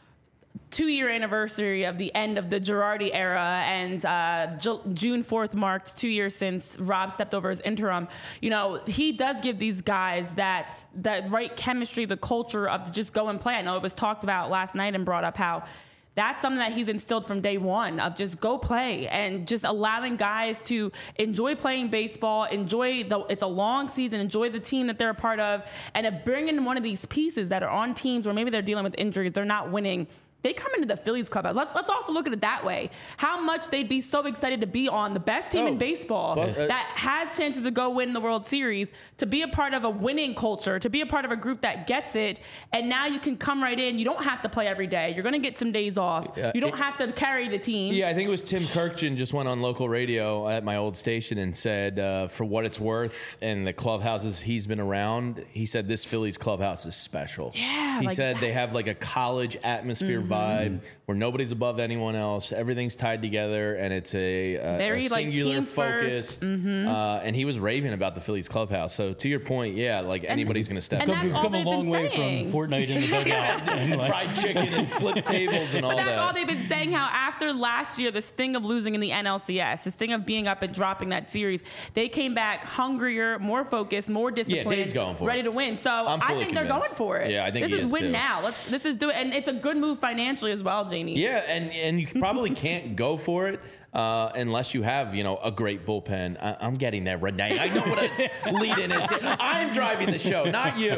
two-year anniversary of the end of the Girardi era, and uh, Ju- June fourth marked two years since Rob stepped over as interim. You know, he does give these guys that that right chemistry, the culture of just go and play. I know it was talked about last night and brought up how that's something that he's instilled from day one of just go play and just allowing guys to enjoy playing baseball, enjoy the, it's a long season, enjoy the team that they're a part of, and to bring in one of these pieces that are on teams where maybe they're dealing with injuries, they're not winning. They come into the Phillies clubhouse. Let's, let's also look at it that way. How much they'd be so excited to be on the best team oh, in baseball well, uh, that has chances to go win the World Series, to be a part of a winning culture, to be a part of a group that gets it. And now you can come right in. You don't have to play every day. You're going to get some days off. Uh, you don't it, have to carry the team. Yeah, I think it was Tim Kirkjian just went on local radio at my old station and said, uh, for what it's worth, and the clubhouses he's been around, he said this Phillies clubhouse is special. Yeah. He like said that. they have like a college atmosphere mm-hmm. vibe where nobody's above anyone else. Everything's tied together, and it's a, a, Very, a singular like, focus. Mm-hmm. Uh, and he was raving about the Phillies clubhouse. So to your point, yeah, like and, anybody's going to step and up. We've come a long way saying. from Fortnite in the dugout. and like, fried chicken and flip tables and but all that. But that's all they've been saying, how after last year, the sting of losing in the N L C S, the sting of being up and dropping that series, they came back hungrier, more focused, more disciplined, yeah, Dave's going for ready it. to win. So I'm I think convinced. they're going for it. Yeah, I think this he is is win too. now. Let's this is do it, and it's a good move financially as well, Jamie. Yeah, and and you probably can't go for it uh, unless you have, you know, a great bullpen. I, I'm getting there, Renee. I know what a lead-in is. I'm driving the show, not you.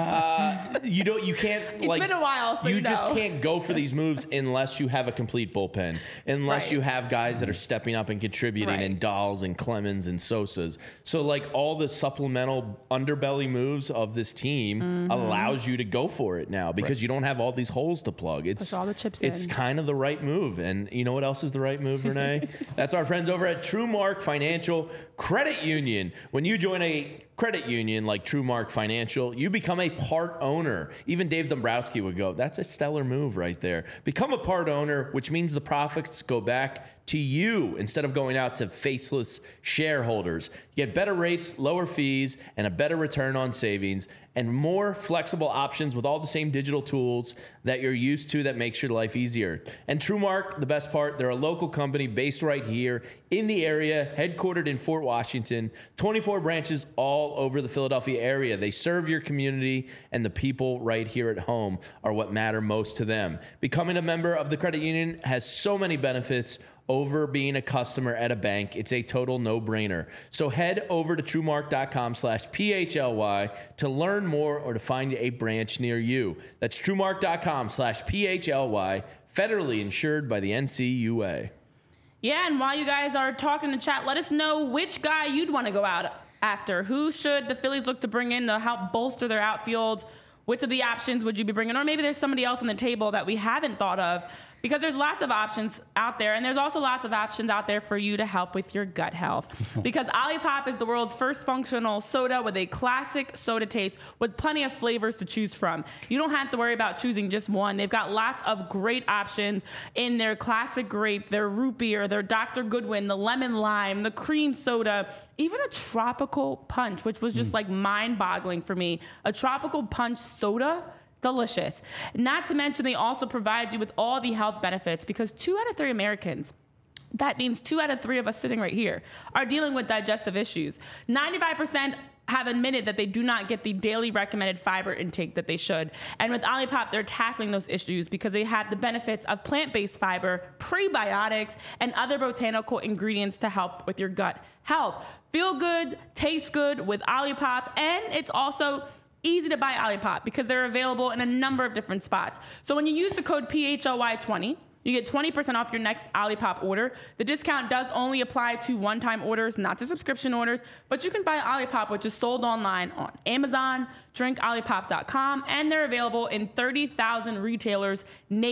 Uh, you don't. You can't. It's like, been a while, so you you just know. can't go for these moves unless you have a complete bullpen. Unless Right. you have guys that are stepping up and contributing, Right. and Dahls and Clemens and Sosas. So like all the supplemental underbelly moves of this team Mm-hmm. allows you to go for it now because you don't have all these holes to plug. It's all the chips It's in. kind of the right move. And you know what else is the right move, Renee? That's our friends over at TrueMark Financial Credit Union. When you join a credit union like TrueMark Financial, you become a part owner. Even Dave Dombrowski would go, that's a stellar move right there. Become a part owner, which means the profits go back to you instead of going out to faceless shareholders. You get better rates, lower fees, and a better return on savings, and more flexible options with all the same digital tools that you're used to that makes your life easier. And TrueMark, the best part, they're a local company based right here in the area, headquartered in Fort Washington, twenty-four branches all over the Philadelphia area. They serve your community, and the people right here at home are what matter most to them. Becoming a member of the credit union has so many benefits over being a customer at a bank. It's a total no-brainer. So head over to TrueMark.com slash PHLY to learn more or to find a branch near you. That's TrueMark.com slash PHLY, federally insured by the N C U A. Yeah, and while you guys are talking in the chat, let us know which guy you'd want to go out after. Who should the Phillies look to bring in to help bolster their outfield? Which of the options would you be bringing? Or maybe there's somebody else on the table that we haven't thought of, because there's lots of options out there, and there's also lots of options out there for you to help with your gut health. Because Olipop is the world's first functional soda with a classic soda taste with plenty of flavors to choose from. You don't have to worry about choosing just one. They've got lots of great options in their classic grape, their root beer, their Doctor Goodwin, the lemon lime, the cream soda, even a tropical punch, which was just like mind-boggling for me. A tropical punch soda. Delicious. Not to mention, they also provide you with all the health benefits, because two out of three Americans, that means two out of three of us sitting right here, are dealing with digestive issues. ninety-five percent have admitted that they do not get the daily recommended fiber intake that they should. And with Olipop, they're tackling those issues because they have the benefits of plant-based fiber, prebiotics, and other botanical ingredients to help with your gut health. Feel good, taste good with Olipop, and it's also easy to buy Olipop because they're available in a number of different spots. So when you use the code P H L Y twenty, you get twenty percent off your next Olipop order. The discount does only apply to one-time orders, not to subscription orders, but you can buy Olipop, which is sold online on Amazon, drink olipop dot com, and they're available in thirty thousand retailers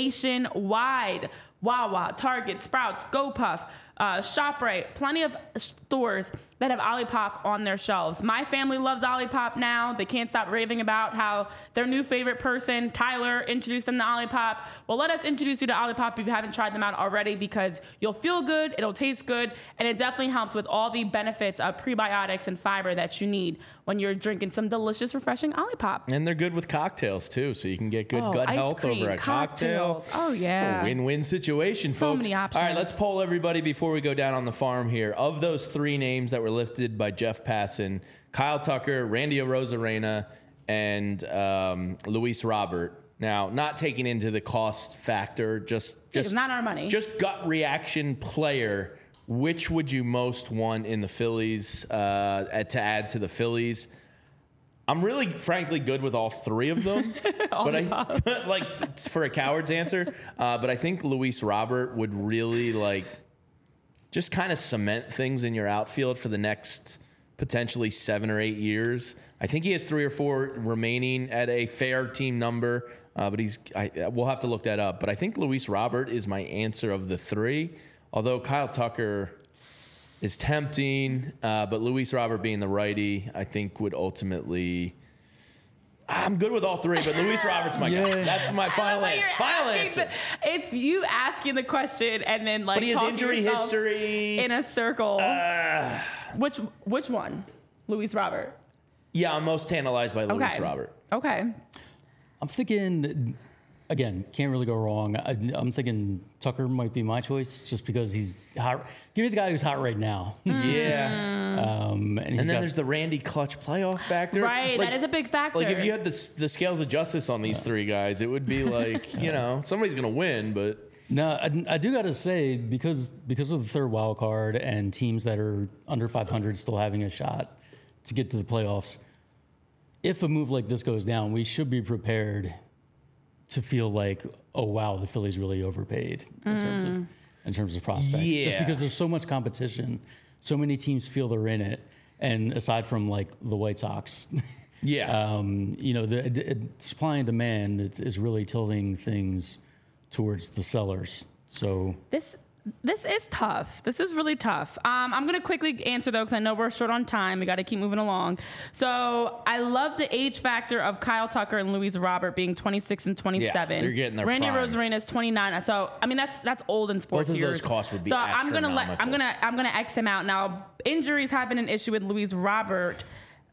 nationwide. Wawa, Target, Sprouts, GoPuff, uh, ShopRite, plenty of stores that have Olipop on their shelves. My family loves Olipop now. They can't stop raving about how their new favorite person, Tyler, introduced them to Olipop. Well, let us introduce you to Olipop if you haven't tried them out already, because you'll feel good, it'll taste good, and it definitely helps with all the benefits of prebiotics and fiber that you need when you're drinking some delicious, refreshing Olipop. And they're good with cocktails, too, so you can get good Oh, gut ice health cream, over a cocktail. cocktails. Oh, yeah. It's a win-win situation, So folks. many options. All right, let's poll everybody before we go down on the farm here. Of those three names that were lifted by Jeff Passan, Kyle Tucker, Randy Arozarena, and um, Luis Robert. Now, not taking into the cost factor, just just It's not our money. Just gut reaction player. Which would you most want in the Phillies uh, to add to the Phillies? I'm really, frankly, good with all three of them. but I, but like, t- for a coward's answer, uh, but I think Luis Robert would really like just kind of cement things in your outfield for the next potentially seven or eight years. I think he has three or four remaining at a fair team number, uh, but he's. I, we'll have to look that up. But I think Luis Robert is my answer of the three. Although Kyle Tucker is tempting, uh, but Luis Robert being the righty, I think would ultimately. I'm good with all three, but Luis Robert's my Yeah. guy. That's my final But answer. you're Final asking answer. the- it's you asking the question and then like But he has talking injury yourself history. in a circle. which which one? Luis Robert. Yeah, I'm most tantalized by Luis Okay. Robert. Okay. I'm thinking, again, can't really go wrong. I, I'm thinking Tucker might be my choice just because he's hot. Give me the guy who's hot right now. Yeah. Um, and he's And then got- there's the Randy Clutch playoff factor. Right, Like- that is a big factor. Like if you had the, the scales of justice on these three guys, it would be like, you know, somebody's going to win, but No, I, I do got to say, because because of the third wild card and teams that are under five hundred still having a shot to get to the playoffs, if a move like this goes down, we should be prepared to feel like, oh wow, the Phillies really overpaid in mm. terms of in terms of prospects. Yeah. Just because there's so much competition, so many teams feel they're in it, and aside from like the White Sox, yeah, um, you know, the, the supply and demand is, is really tilting things towards the sellers. So this this is tough. This is really tough. Um, I'm gonna quickly answer though, because I know we're short on time. We got to keep moving along. So I love the age factor of Kyle Tucker and Luis Robert being twenty-six and twenty-seven. Yeah, they're getting their Randy prime. Rosarena is twenty-nine. So I mean that's that's old in sports Both of years. those costs would be So I'm gonna let I'm astronomical. gonna I'm gonna X him out now. Injuries have been an issue with Luis Robert.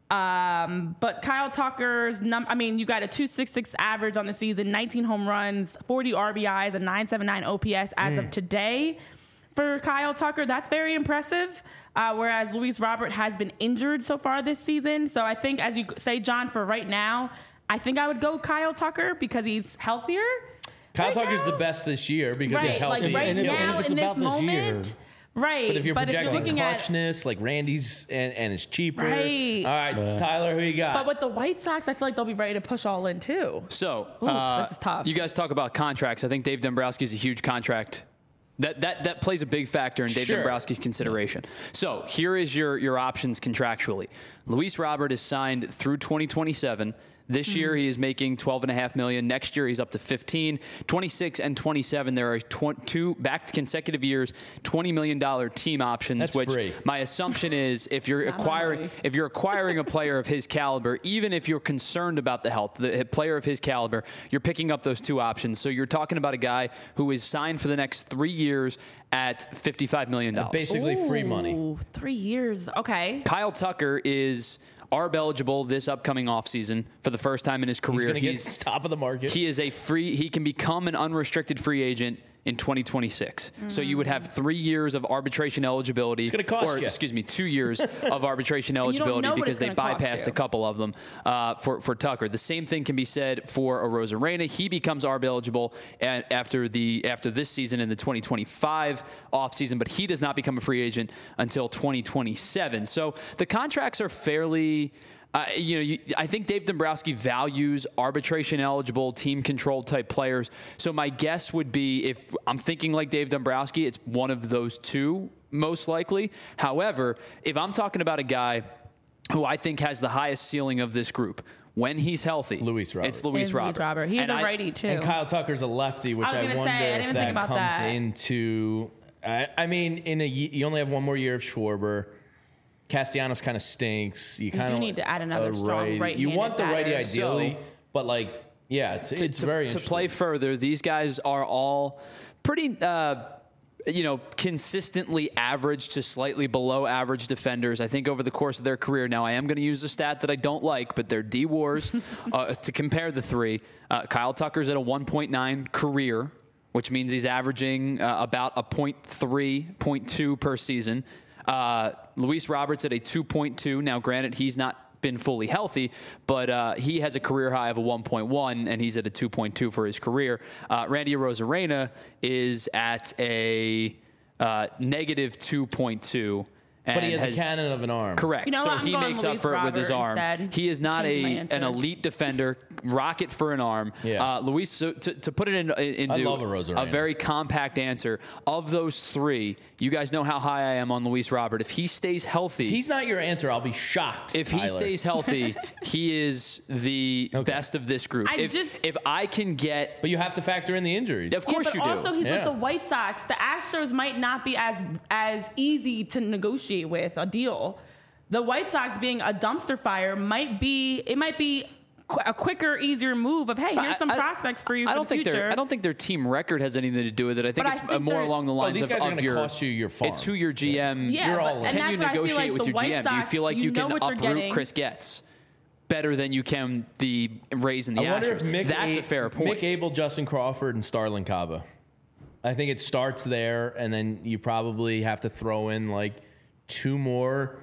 Um, but Kyle Tucker's num I mean, you got a two sixty-six average on the season, nineteen home runs, forty R B Is, a nine seventy-nine O P S as Mm. of today. For Kyle Tucker, that's very impressive. Uh, whereas Luis Robert has been injured so far this season. So I think, as you say, John, for right now, I think I would go Kyle Tucker because he's healthier. Kyle right Tucker's now. the best this year because Right, he's healthy. like right And if- and now if it's in this about this year- moment. Right. But if you're projecting looking at clutchness, like Randy's and, and it's cheaper. Right. All right, Yeah. Tyler, who you got? But with the White Sox, I feel like they'll be ready to push all in too. So Oof, uh, this is tough. you guys talk about contracts. I think Dave Dombrowski is a huge contract. That, that that plays a big factor in Dave Sure. Dombrowski's consideration. So here is your your options contractually. Luis Robert is signed through twenty twenty-seven. This year he is making twelve and a half million. Next year he's up to fifteen. twenty-six and twenty-seven, there are tw- two back consecutive years, twenty million dollars team options. That's which free. my assumption is if you're Not acquiring money. if you're acquiring a player of his caliber, even if you're concerned about the health, the player of his caliber, you're picking up those two options. So you're talking about a guy who is signed for the next three years at fifty-five million dollars. Basically free money. Ooh, three years. Okay. Kyle Tucker is arb eligible this upcoming offseason for the first time in his career. He's going to get top of the market. He is a free. He can become an unrestricted free agent in twenty twenty-six. Mm. So you would have three years of arbitration eligibility. It's gonna cost or, you. excuse me, two years of arbitration you don't eligibility know what because it's they gonna cost bypassed you. a couple of them uh, for for Tucker. The same thing can be said for a Rosarena. He becomes arb eligible a- after the after this season in the twenty twenty-five offseason, but he does not become a free agent until twenty twenty-seven. So the contracts are fairly. Uh, you know, you, I think Dave Dombrowski values arbitration-eligible, team-controlled type players. So my guess would be, if I'm thinking like Dave Dombrowski, it's one of those two, most likely. However, if I'm talking about a guy who I think has the highest ceiling of this group, when he's healthy, Luis Robert. it's Luis Is Robert. Luis Robert. He's And a I- righty too. And Kyle Tucker's a lefty, which I was I, gonna wonder say, I didn't if even that think about comes that. into. I, I mean, in a ye- you only have one more year of Schwarber. Castellanos kind of stinks. You kind of need to add another strong You right-handed want the righty batter. ideally, So- but like, yeah, it's, to, it's to- very to interesting. play further. These guys are all pretty, uh, you know, consistently average to slightly below average defenders. I think over the course of their career. Now, I am going to use a stat that I don't like, but they're D WARs. uh, to compare the three, uh, Kyle Tucker's at a one point nine career, which means he's averaging uh, about a point three, point two per season. Uh, Luis Roberts at a two point two. Now, granted, he's not been fully healthy, but uh, he has a career high of a one point one, and he's at a two point two for his career. Uh, Randy Rosarena is at a uh, negative two point two. But he has, a cannon of an arm. Correct. You know so what? I'm he going makes up Luis for it with his Robert arm. instead. He is not Change my a answer. an elite defender, rocket for an arm. Yeah. Uh, Luis, so to, to put it in, in, into love a Rosarena. very compact answer, of those three, you guys know how high I am on Luis Robert. If he stays healthy, If he's not your answer, I'll be shocked. if he Tyler. stays healthy, he is the Okay. best of this group. I if, just- if I can get, But you have to factor in the injuries. of course yeah, but you do. also he's Yeah. with the White Sox. The Astros might not be as as easy to negotiate with a deal. The White Sox being a dumpster fire might be it might be qu- a quicker, easier move of hey, here's some I- I- prospects for you I for don't the think future. their I don't think their team record has anything to do with it. I think But I it's think uh, more they're- along the Oh, lines these of, guys are of going to your. cost you your farm. It's who your G M. Yeah, You're but- all in. and Can that's you what I feel negotiate like with the your White G M? Do you Sox, feel like you, you know can what you're uproot getting. Chris Getz better than you can the Rays and the I wonder Astros? if Mick That's A- a fair point. Mick Abel, Justin Crawford, and Starlin Caba. I think it starts there, and then you probably have to throw in like two more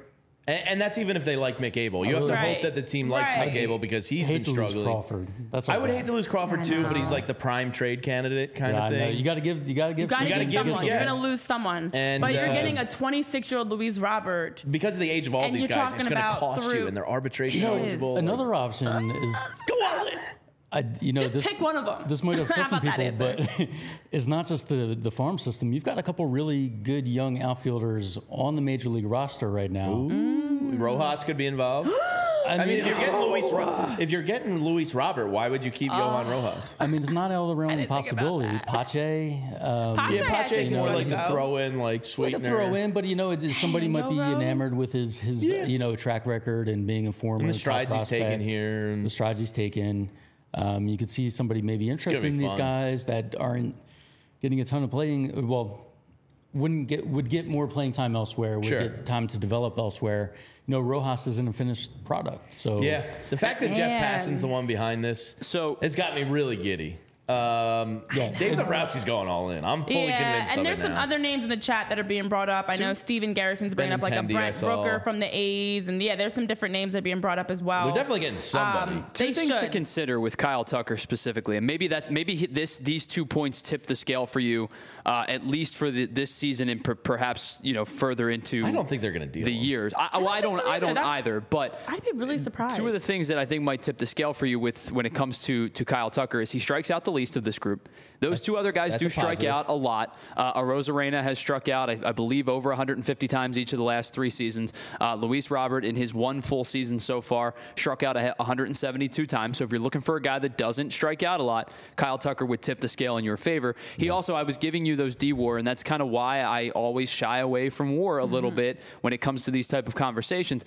And, and that's even if they like Mick Abel. You have to Right. hope that the team likes Right. Mick Abel because he's hate been to lose struggling. Crawford. That's I all would bad. hate to lose Crawford I too, but know. he's like the prime trade candidate kind Yeah, I of know. thing. You got to give. You got to give. You gotta, gotta give give someone. some- You're yeah. gonna lose someone. And, but you're uh, getting a twenty-six-year-old Luis Robert. Because of the age of all And these you're guys, talking it's going to about cost through- you, and they're arbitration You know, eligible. another option is Go all in. I, you know, Just this, pick one of them. This might upset How some about people, that but it's not just the the farm system. You've got a couple really good young outfielders on the major league roster right now. Mm. Rojas could be involved. I mean, if you're getting Luis, Ro- if you're getting Luis Robert, why would you keep Johan Rojas? I mean, it's not out of the realm of didn't think about possibility. Pache, um, Pache, Yeah, I Pache's think more would like the go. throw in, like like sweetener. a throw in, but you know, it, somebody might be Yoro. enamored with his his Yeah. you know track record and being a former And the top strides he's taken prospect. here. And The strides he's taken. Um, you could see somebody maybe interested be in these fun. guys that aren't getting a ton of playing. Well, wouldn't get would get more playing time elsewhere. Would Sure. get time to develop elsewhere. You know, Rojas isn't a finished product. So yeah, the fact that Jeff Man. Passan's the one behind this So- has got me really giddy. Um, Yeah. Dave Dombrowski's going all in. I'm fully Yeah, convinced and of there's it some now. other names in the chat that are being brought up. I know Steven Garrison's bringing up like a Benintendi, I Brent saw. Brooker from the A's, and yeah, there's some different names that are being brought up as well. They're definitely getting somebody. Um, Two they things to should. consider with Kyle Tucker specifically, and maybe that maybe he- this these two points tip the scale for you, uh, at least for the, this season and per, perhaps you know further into. I don't think they're going to deal the him. years. I, well, I don't. I don't That's- either. But I'd be really surprised. two of the things that I think might tip the scale for you with when it comes to to Kyle Tucker is he strikes out the least of this group. Those two other guys that's do a strike positive. out a lot. Uh, Arozarena has struck out, I, I believe, over one hundred fifty times each of the last three seasons. Uh, Luis Robert, in his one full season so far, struck out a- one hundred seventy-two times. So if you're looking for a guy that doesn't strike out a lot, Kyle Tucker would tip the scale in your favor. He also, I was giving you those D-WAR, and that's kind of why I always shy away from WAR a little bit when it comes to these type of conversations.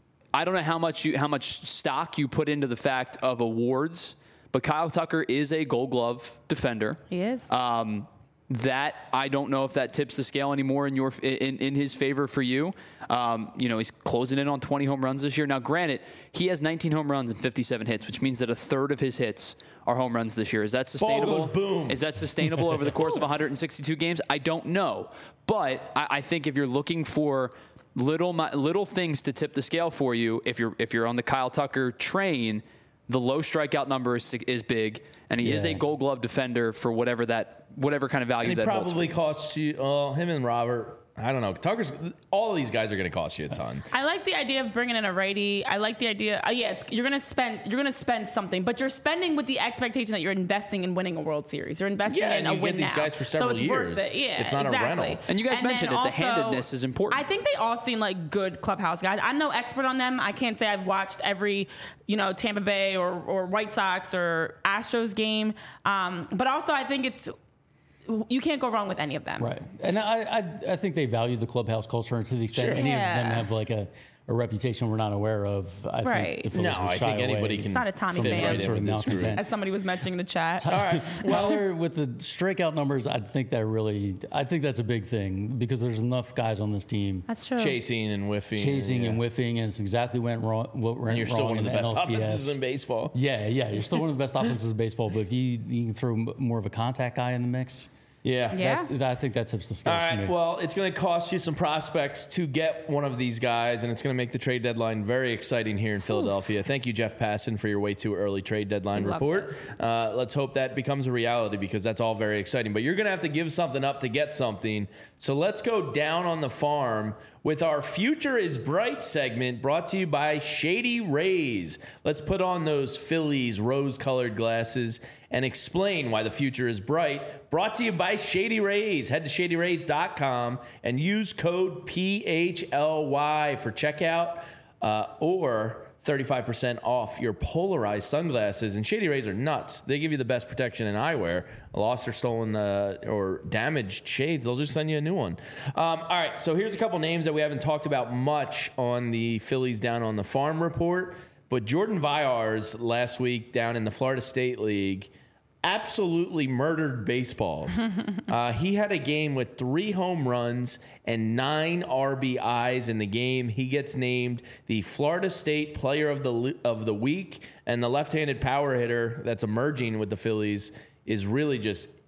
I don't know how much you how much stock you put into the fact of awards, but Kyle Tucker is a Gold Glove defender. He is. Um, that I don't know if that tips the scale anymore in your in, in his favor for you. Um, you know, he's closing in on twenty home runs this year. Now, granted, he has nineteen home runs and fifty-seven hits, which means that a third of his hits are home runs this year. Is that sustainable? goes boom. Is that sustainable over the course of one hundred sixty-two games? I don't know, but I, I think if you're looking for little mi- little things to tip the scale for you, if you're if you're on the Kyle Tucker train, the low strikeout number is, is big, and he is Yeah. a Gold Glove defender for whatever that whatever kind of value And he that holds for probably you. costs you. Well, him and Robert. I don't know. Tucker's. All of these guys are going to cost you a ton. I like the idea of bringing in a righty. I like the idea. Uh, yeah, it's, you're gonna spend. You're gonna spend something, but you're spending with the expectation that you're investing in winning a World Series. You're investing Yeah, in and a you win get these now. guys for several so it's years. Worth it. Yeah, It's not a exactly. rental. And you guys then mentioned it, the also, handedness is important. I think they all seem like good clubhouse guys. I'm no expert on them. I can't say I've watched every, you know, Tampa Bay or or White Sox or Astros game. Um, but also, I think it's. You can't go wrong with any of them. Right, and I, I I think they value the clubhouse culture, and to the extent Sure. any Yeah. of them have like a, a reputation we're not aware of. I Right. think the Phillies No, would I shy think anybody away can. It's not a Tommy fit fan. right in Sort of with this malcontents. group. As somebody was mentioning in the chat. All right. Tyler, with the strikeout numbers, I think that really, I think that's a big thing because there's enough guys on this team That's true. Chasing and whiffing. chasing yeah. and whiffing, and it's exactly went wrong. What went And you're still wrong one of in the best N L C S. offenses in baseball. Yeah, yeah, you're still one of the best offenses in baseball, but if you, you can throw m- more of a contact guy in the mix, Yeah. Yeah. that, I think that tips the All scales for me. right. Well, it's going to cost you some prospects to get one of these guys, and it's going to make the trade deadline very exciting here in Philadelphia. Thank you, Jeff Passan, for your way too early trade deadline We love report. this. Uh, let's hope that becomes a reality because that's all very exciting. But you're going to have to give something up to get something. So let's go down on the farm with our Future is Bright segment brought to you by Shady Rays. Let's put on those Phillies rose-colored glasses and explain why the future is bright. Brought to you by Shady Rays. Head to shady rays dot com and use code P H L Y for checkout uh, or thirty-five percent off your polarized sunglasses. And Shady Rays are nuts. They give you the best protection in eyewear. Lost or stolen uh, or damaged shades, they'll just send you a new one. Um, all right, so here's a couple names that we haven't talked about much on the Phillies Down on the Farm report. But Jordan Vyars last week down in the Florida State League absolutely murdered baseballs. uh, he had a game with three home runs and nine R B Is in the game. He gets named the Florida State Player of the of the Week, and the left-handed power hitter that's emerging with the Phillies is really just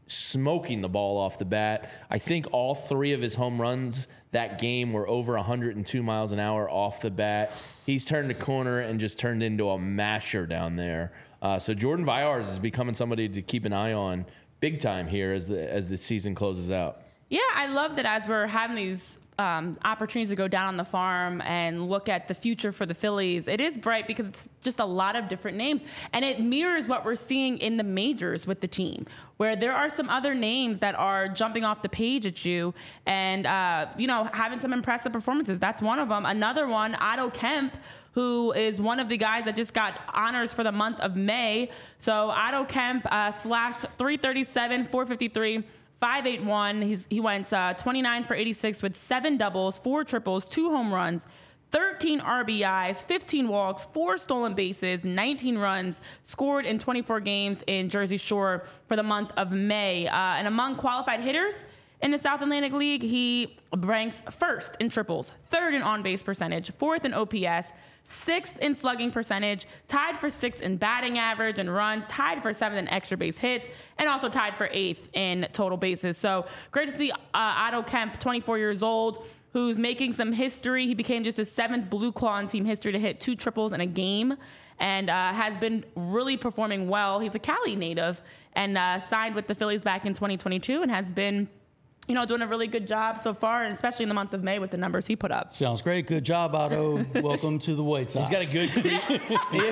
smoking the ball off the bat. I think all three of his home runs that game were over one hundred two miles an hour off the bat. He's turned the corner and just turned into a masher down there. Uh, so Jordan Viars is becoming somebody to keep an eye on big time here as the as the season closes out. Yeah, I love that as we're having these um, opportunities to go down on the farm and look at the future for the Phillies. It is bright because it's just a lot of different names. And it mirrors what we're seeing in the majors with the team, where there are some other names that are jumping off the page at you and, uh, you know, having some impressive performances. That's one of them. Another one, Otto Kemp, who is one of the guys that just got honors for the month of May. So Otto Kemp uh, slashed three thirty-seven, four fifty-three, five eighty-one. He's, he went uh, twenty-nine for eighty-six with seven doubles, four triples, two home runs, thirteen R B Is, fifteen walks, four stolen bases, nineteen runs scored in twenty-four games in Jersey Shore for the month of May. Uh, and among qualified hitters in the South Atlantic League, he ranks first in triples, third in on-base percentage, fourth in O P S, sixth in slugging percentage, tied for sixth in batting average and runs, tied for seventh in extra base hits, and also tied for eighth in total bases. So great to see uh, Otto Kemp, twenty-four years old, who's making some history. He became just the seventh Blue Claw in team history to hit two triples in a game and uh, has been really performing well. He's a Cali native and uh, signed with the Phillies back in twenty twenty-two and has been, you know, doing a really good job so far, and especially in the month of May with the numbers he put up. Sounds great. Good job, Otto. Welcome to the White Sox. He's got a good cre-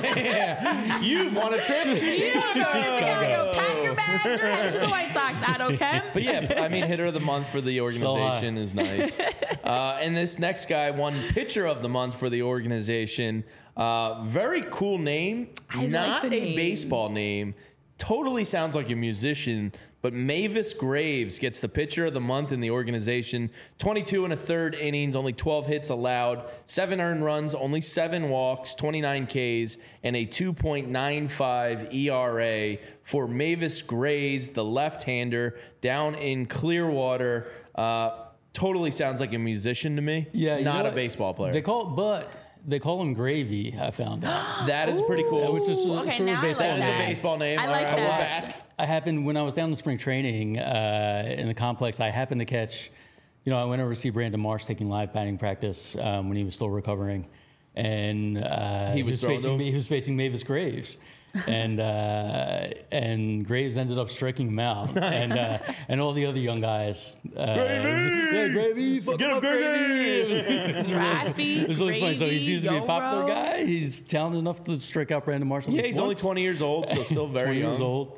yeah. You've won a trip to Chicago. Chicago. Pack your bags. You're headed to the White Sox, Otto Kemp. But yeah, I mean, hitter of the month for the organization is nice. Uh, and this next guy won pitcher of the month for the organization. Uh, very cool name. I Not like the a name. baseball name. Totally sounds like a musician. But Mavis Graves gets the pitcher of the month in the organization. twenty-two and a third innings, only twelve hits allowed, seven earned runs, only seven walks, twenty-nine Ks, and a two point nine five E R A for Mavis Graves, the left-hander, down in Clearwater. Uh, totally sounds like a musician to me. Yeah, you know not a what? baseball player. They call but they call him Gravy. I found out. that is pretty cool. Which is Ooh, sort okay, of now I baseball. like That is a that. baseball name. I All like right, we're that. back. I happened when I was down in spring training uh, in the complex. I happened to catch, you know, I went over to see Brandon Marsh taking live batting practice um, when he was still recovering, and uh, He was throwing facing them? me. He was facing Mavis Graves, and uh, and Graves ended up striking him out, and uh, and all the other young guys. Uh, Gravy! Yeah, Gravy! Fuck Get him him, up, Gravy! It was really, Raffy, it was really funny. So he Gravy, seems to be a popular Yoro. guy. He's talented enough to strike out Brandon Marsh. Yeah, he's only twenty years old, so still very twenty young. years old.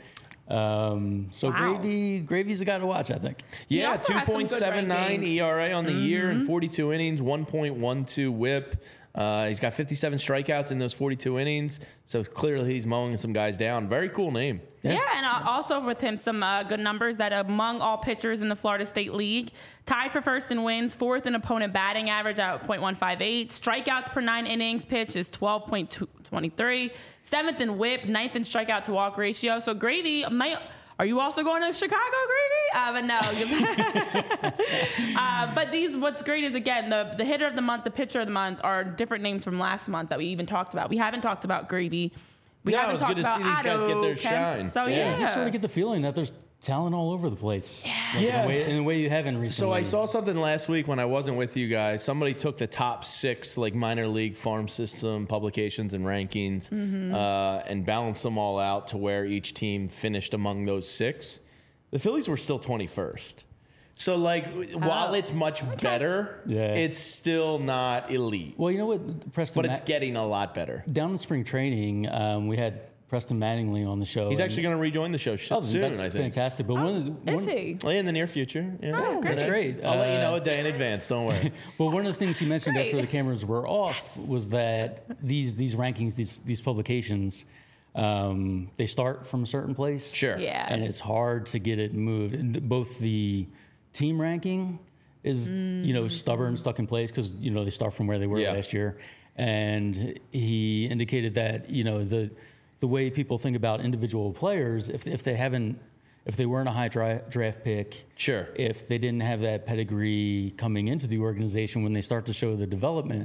Um, so Wow. Gravy, Gravy's a guy to watch, I think. Yeah, also two has some point good seven nine rankings. E R A on the year in forty-two innings, one point one two whip. Uh, he's got fifty-seven strikeouts in those forty-two innings, so clearly he's mowing some guys down. Very cool name. Yeah, and uh, also with him, some uh, good numbers that among all pitchers in the Florida State League, tied for first in wins, fourth in opponent batting average at point one five eight, strikeouts per nine innings pitched is twelve point two three, seventh in whip, ninth in strikeout to walk ratio. So Gravy might. Are you also going to Chicago, Gravy? Uh, but no. uh, but these, what's great is, again, the, the hitter of the month, the pitcher of the month are different names from last month that we even talked about. We haven't talked about Gravy. We Yeah, it haven't was talked good to about see these guys get their Otto Kemp. shine. So, Yeah, yeah. you just sort of get the feeling that there's talent all over the place. Like Yeah. In a, way, in a way you haven't recently. So I saw something last week when I wasn't with you guys. Somebody took the top six like minor league farm system publications and rankings uh, and balanced them all out to where each team finished among those six. The Phillies were still twenty-first. So like while it's much better, Yeah. it's still not elite. Well, you know what, Preston. But it's Ma- getting a lot better. down in spring training, um, we had Preston Mattingly on the show. He's and- actually going to rejoin the show sh- Oh, soon, that's I think. fantastic. But one of the Is one, he? Well, in the near future. Yeah. Oh, great. That's great. I'll let you Uh, know a day in advance. Don't worry. Well, one of the things he mentioned Great. after the cameras were off was that these these rankings, these these publications, um, they start from a certain place. Sure. Yeah. And it's hard to get it moved. And both the team ranking is, you know, stubborn, stuck in place because, you know, they start from where they were Yeah. last year. And he indicated that, you know, the the way people think about individual players, if if they haven't, if they weren't a high dra- draft pick, Sure. if they didn't have that pedigree coming into the organization, when they start to show the development,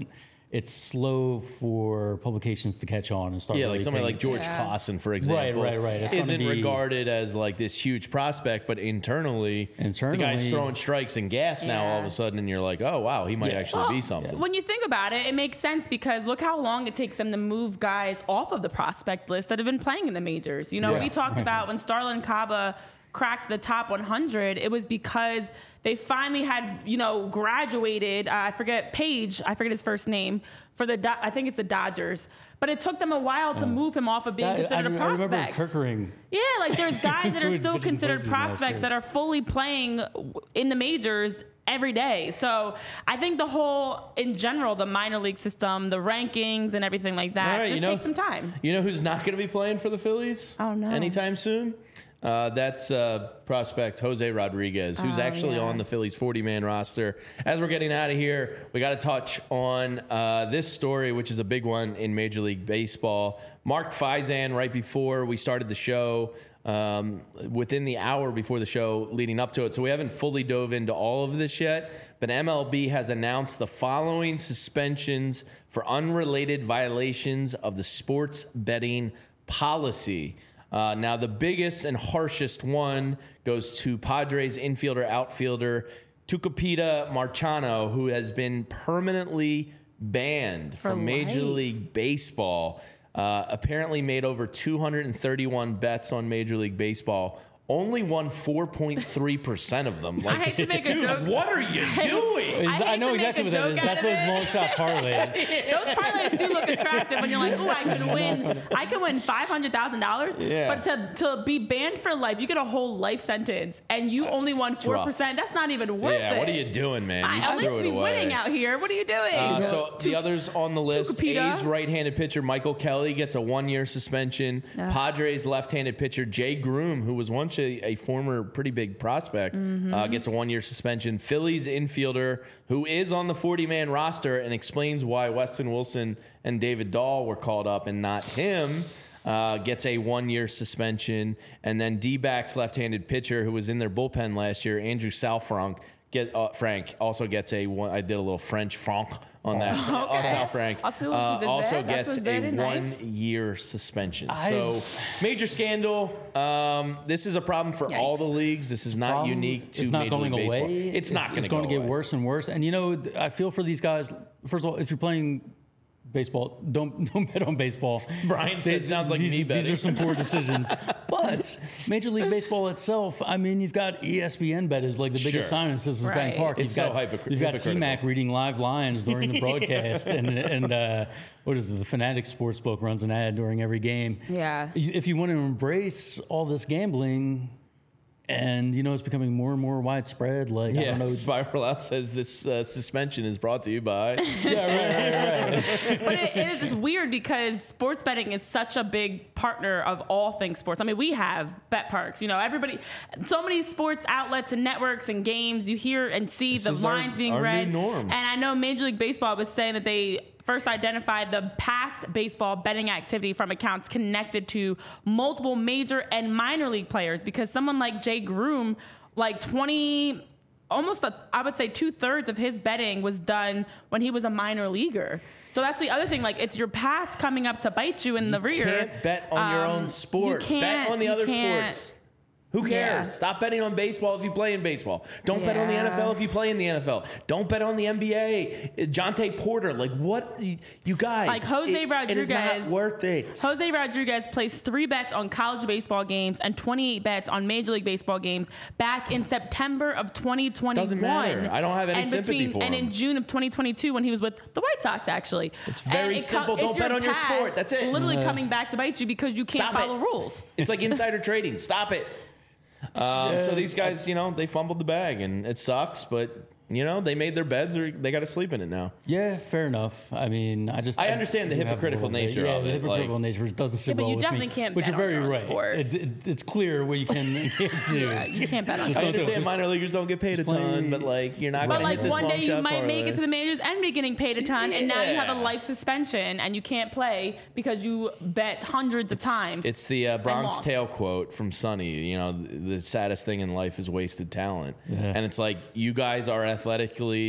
it's slow for publications to catch on and start. Yeah, really like somebody paying- like George Yeah. Clausen, for example, right, right. It's isn't gonna be- regarded as like this huge prospect, but internally, Internally- the guy's throwing strikes and gas now all of Yeah. a sudden, and you're like, oh wow, he might Yeah. actually Well, be something. When you think about it, it makes sense because look how long it takes them to move guys off of the prospect list that have been playing in the majors. You know, Yeah. we talked about when Starlin Caba cracked the top one hundred, it was because they finally had, you know, graduated, uh, I forget, Page, I forget his first name, for the, Do- I think it's the Dodgers. But it took them a while to move him off of being I, I, considered a I remember prospect. Kirkering. Yeah, like there's guys that are Who still pitched in considered postseason last prospects year. that are fully playing in the majors every day. So I think the whole, in general, the minor league system, the rankings and everything like that, All right, just you know- takes some time. You know who's not going to be playing for the Phillies? Oh, no. Anytime soon? Uh, that's uh, prospect Jose Rodriguez, who's Oh, actually yeah. on the Phillies forty-man roster. As we're getting out of here, we got to touch on uh, this story, which is a big one in Major League Baseball. Mark Faison, right before we started the show, um, within the hour before the show leading up to it. So we haven't fully dove into all of this yet, but M L B has announced the following suspensions for unrelated violations of the sports betting policy. Uh, now, the biggest and harshest one goes to Padres infielder, outfielder Tucupita Marchano, who has been permanently banned For from Major life. League Baseball. Uh, apparently made over two hundred thirty-one bets on Major League Baseball. Only won four point three percent of them. I hate to make a dude, joke. what are you doing? I hate I know to make exactly a what that joke is. out That's of those it. long shot parlays. Those parlays do look attractive when you're like, "Ooh, I can win. I can win five hundred thousand dollars." Yeah. But to to be banned for life, you get a whole life sentence, and you only won four rough. percent. That's not even worth it. Yeah, what are you doing, man? You I, at threw least it be away. winning out here. What are you doing? Uh, so the others on the list, Tucupita. A's right-handed pitcher Michael Kelly gets a one-year suspension. Yeah. Padres left-handed pitcher Jay Groom, who was once a, a former pretty big prospect, Mm-hmm. uh, gets a one-year suspension. Phillies infielder, who is on the forty-man roster and explains why Weston Wilson and David Dahl were called up and not him, uh, gets a one-year suspension. And then D-backs left-handed pitcher, who was in their bullpen last year, Andrew Salfranc, Get uh, Frank also gets a one. I did a little French Franc on that. Okay. Uh, Sal Frank I'll see what uh, she did also there. That gets was a very nice. one-year suspension. I- So major scandal. Um, this is a problem for all the Yikes. leagues. This is not Problem, unique to it's not Major going League Baseball. away. It's not It's going going to to go get away. worse and worse. And you know, th- I feel for these guys. First of all, if you're playing baseball, don't don't bet on baseball. Brian said, They- "Sounds like these, me betting." These are some poor decisions. But Major League Baseball itself, I mean, you've got E S P N bet is like the biggest Sure. sign in Citizens Right. Bank Park. It's you've so got, hypocr- You've got hypocritical. T-Mac reading live lines during the broadcast, and and uh, what is it? The Fanatic Sportsbook runs an ad during every game. Yeah. If you want to embrace all this gambling. And, you know, it's becoming more and more widespread. Like, I Yeah, don't know. Spiral Out says this uh, suspension is brought to you by. Yeah, right, right, right. But it, it is just weird because sports betting is such a big partner of all things sports. I mean, we have bet parks. You know, everybody, so many sports outlets and networks and games. You hear and see This the is our- lines being our new read. norm. And I know Major League Baseball was saying that they first identified the past baseball betting activity from accounts connected to multiple major and minor league players because someone like Jay Groom, like twenty, almost a, I would say two thirds of his betting was done when he was a minor leaguer. So that's the other thing. Like it's your past coming up to bite you in the rear. You can't bet on your Um, own sport. you can't- Bet on the you other can't- sports. Who cares? Yeah. Stop betting on baseball if you play in baseball. Don't bet on the Yeah. N F L if you play in the N F L. Don't bet on the N B A. Jonte Porter, like what? You guys, Like Jose it, Rodriguez. it is not worth it. Jose Rodriguez placed three bets on college baseball games and twenty-eight bets on Major League Baseball games back in September of twenty twenty-one. Doesn't matter. I don't have any and sympathy between, for And him. in June of twenty twenty-two when he was with the White Sox, actually. It's very And it simple. it's Don't bet your on your past sport. That's it. Literally coming back to bite you because you can't Stop it. follow rules. It's like insider trading. Stop it. Um, so these guys, you know, they fumbled the bag, and it sucks. But you know, they made their beds, or they got to sleep in it now. Yeah, fair enough. I mean, I just I understand the do have a hypocritical little bit- nature yeah, of the it, hypocritical like- nature doesn't sit Yeah, but well you with definitely me. can't But bet you're on very your own right. sport. It, it, it's clear what you can and can't do. Yeah, you can't bet on Just I don't sports. do it. understand Just- minor leaguers don't get paid a just play- ton, but like you're not But going to like hit this one long day you shot might make parlay. it to the majors and be getting paid a ton, and now you have a Yeah. life suspension and you can't play because you bet hundreds of times. It's the uh, Bronx lost. Tale quote from Sonny. You know, the, the saddest thing in life is wasted talent. And it's like, you guys are athletically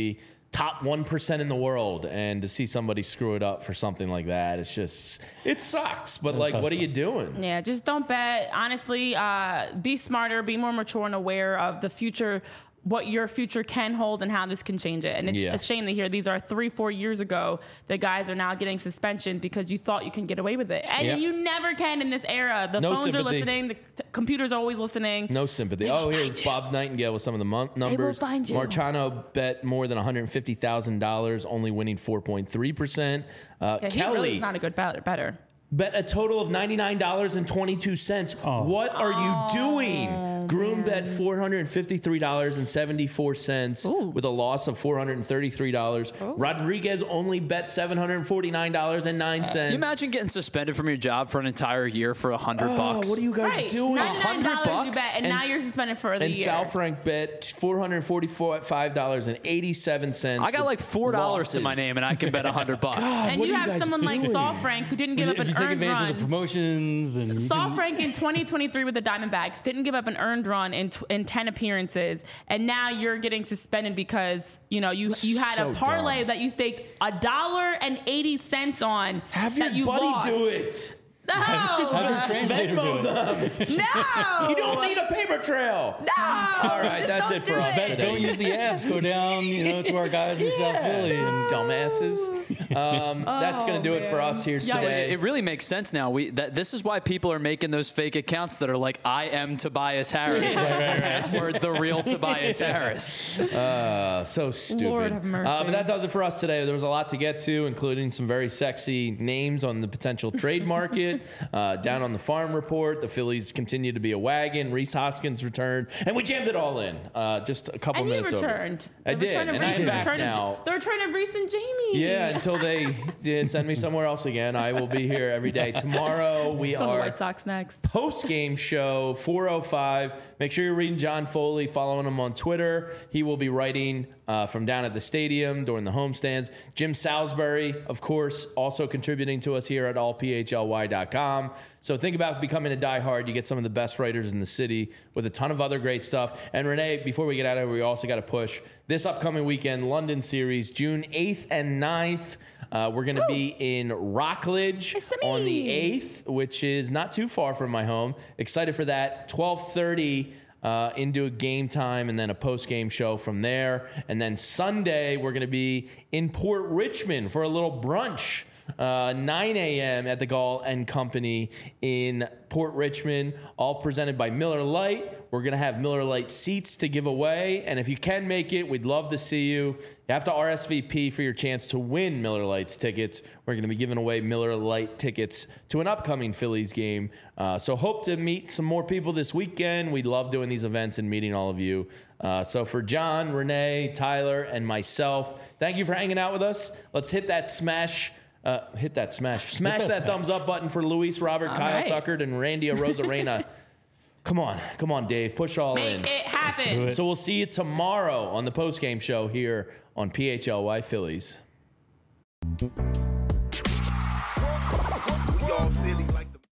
top one percent in the world, and to see somebody screw it up for something like that, it's just, it sucks. But like, what are you doing? Yeah, just don't bet. Honestly, uh, be smarter, be more mature and aware of the future, what your future can hold and how this can change it. And it's Yeah. a shame to hear these are three, four years ago that guys are now getting suspension because you thought you can get away with it. And Yep. you never can in this era. The No phones are sympathy. listening, the t- computers are always listening. No sympathy. They will Oh, find here's you. Bob Nightingale with some of the mon- numbers. find you. Marciano bet more than one hundred fifty thousand dollars, only winning four point three percent. Uh, Yeah, he Kelly really is not a good bet- better. bet a total of ninety-nine dollars and twenty-two cents. What are you doing? Groom bet four hundred fifty-three dollars and seventy-four cents Ooh. with a loss of four hundred thirty-three dollars. Rodriguez only bet seven hundred forty-nine dollars and nine cents. Can you imagine getting suspended from your job for an entire year for a hundred Oh, bucks? what are you guys Right, doing? ninety-nine dollars you bucks? bet, and, And- now you're suspended for the And year. Sal Frank bet four hundred forty-five dollars and eighty-seven cents. I got with like four dollars to my losses. name, and I can bet a hundred bucks. and what you are you have guys someone like doing? Saul Frank who didn't give If up an you take earned advantage run. of the promotions and you Saul can- Frank in twenty twenty-three with the Diamondbacks didn't give up an earned run in, t- in ten appearances, and now you're getting suspended because you know you you had So a parlay dumb. that you staked a dollar and eighty cents on. Have your that you buddy lost. do it. No, Just have your translator do Venmo it. them. no, You don't need a paper trail. no. All right, that's Don't it for do us it. today. Don't use the apps. Go down, you know, to our guys in South Philly. And Dumbasses. Um, that's going to do it for us here So today. it, it really makes sense now. We that this is why people are making those fake accounts that are like, "I am Tobias Harris." Password the real Tobias Harris. Uh, so stupid. Lord have mercy. Uh, but that does it for us today. There was a lot to get to, including some very sexy names on the potential trade market. Uh, down on the farm report, the Phillies continue to be a wagon. Reese Hoskins returned, and we jammed it all in. Uh, just a couple And you minutes returned. over. I The did, return of and Reese, I'm the back return of- now. The return of Reese and Jamie. Yeah, until they yeah, send me somewhere else again. I will be here every day. Tomorrow we Let's go to the are White Sox next. post game show four oh five. Make sure you're reading John Foley, following him on Twitter. He will be writing uh, from down at the stadium during the homestands. Jim Salisbury, of course, also contributing to us here at all p h l y dot com. So think about becoming a diehard. You get some of the best writers in the city with a ton of other great stuff. And Renee, before we get out of here, we also got to push this upcoming weekend, London series, June eighth and ninth. Uh, we're going to be in Rockledge Listen to on the me. eighth, which is not too far from my home. Excited for that. twelve thirty uh, into a game time and then a post-game show from there. And then Sunday, we're going to be in Port Richmond for a little brunch. Uh, nine a.m. at the Gall and Company in Port Richmond, all presented by Miller Lite. We're going to have Miller Lite seats to give away. And if you can make it, we'd love to see you. You have to R S V P for your chance to win Miller Lite's tickets. We're going to be giving away Miller Lite tickets to an upcoming Phillies game. Uh, so hope to meet some more people this weekend. We love doing these events and meeting all of you. Uh, so for John, Renee, Tyler, and myself, thank you for hanging out with us. Let's hit that smash. Uh, hit that smash. Smash that, that thumbs up button for Luis, Robert, All Kyle right. Tucker, and Randy Rosarena. Come on. Come on, Dave. Push all in. Make it happen. So we'll see you tomorrow on the postgame show here on P H L Y Phillies.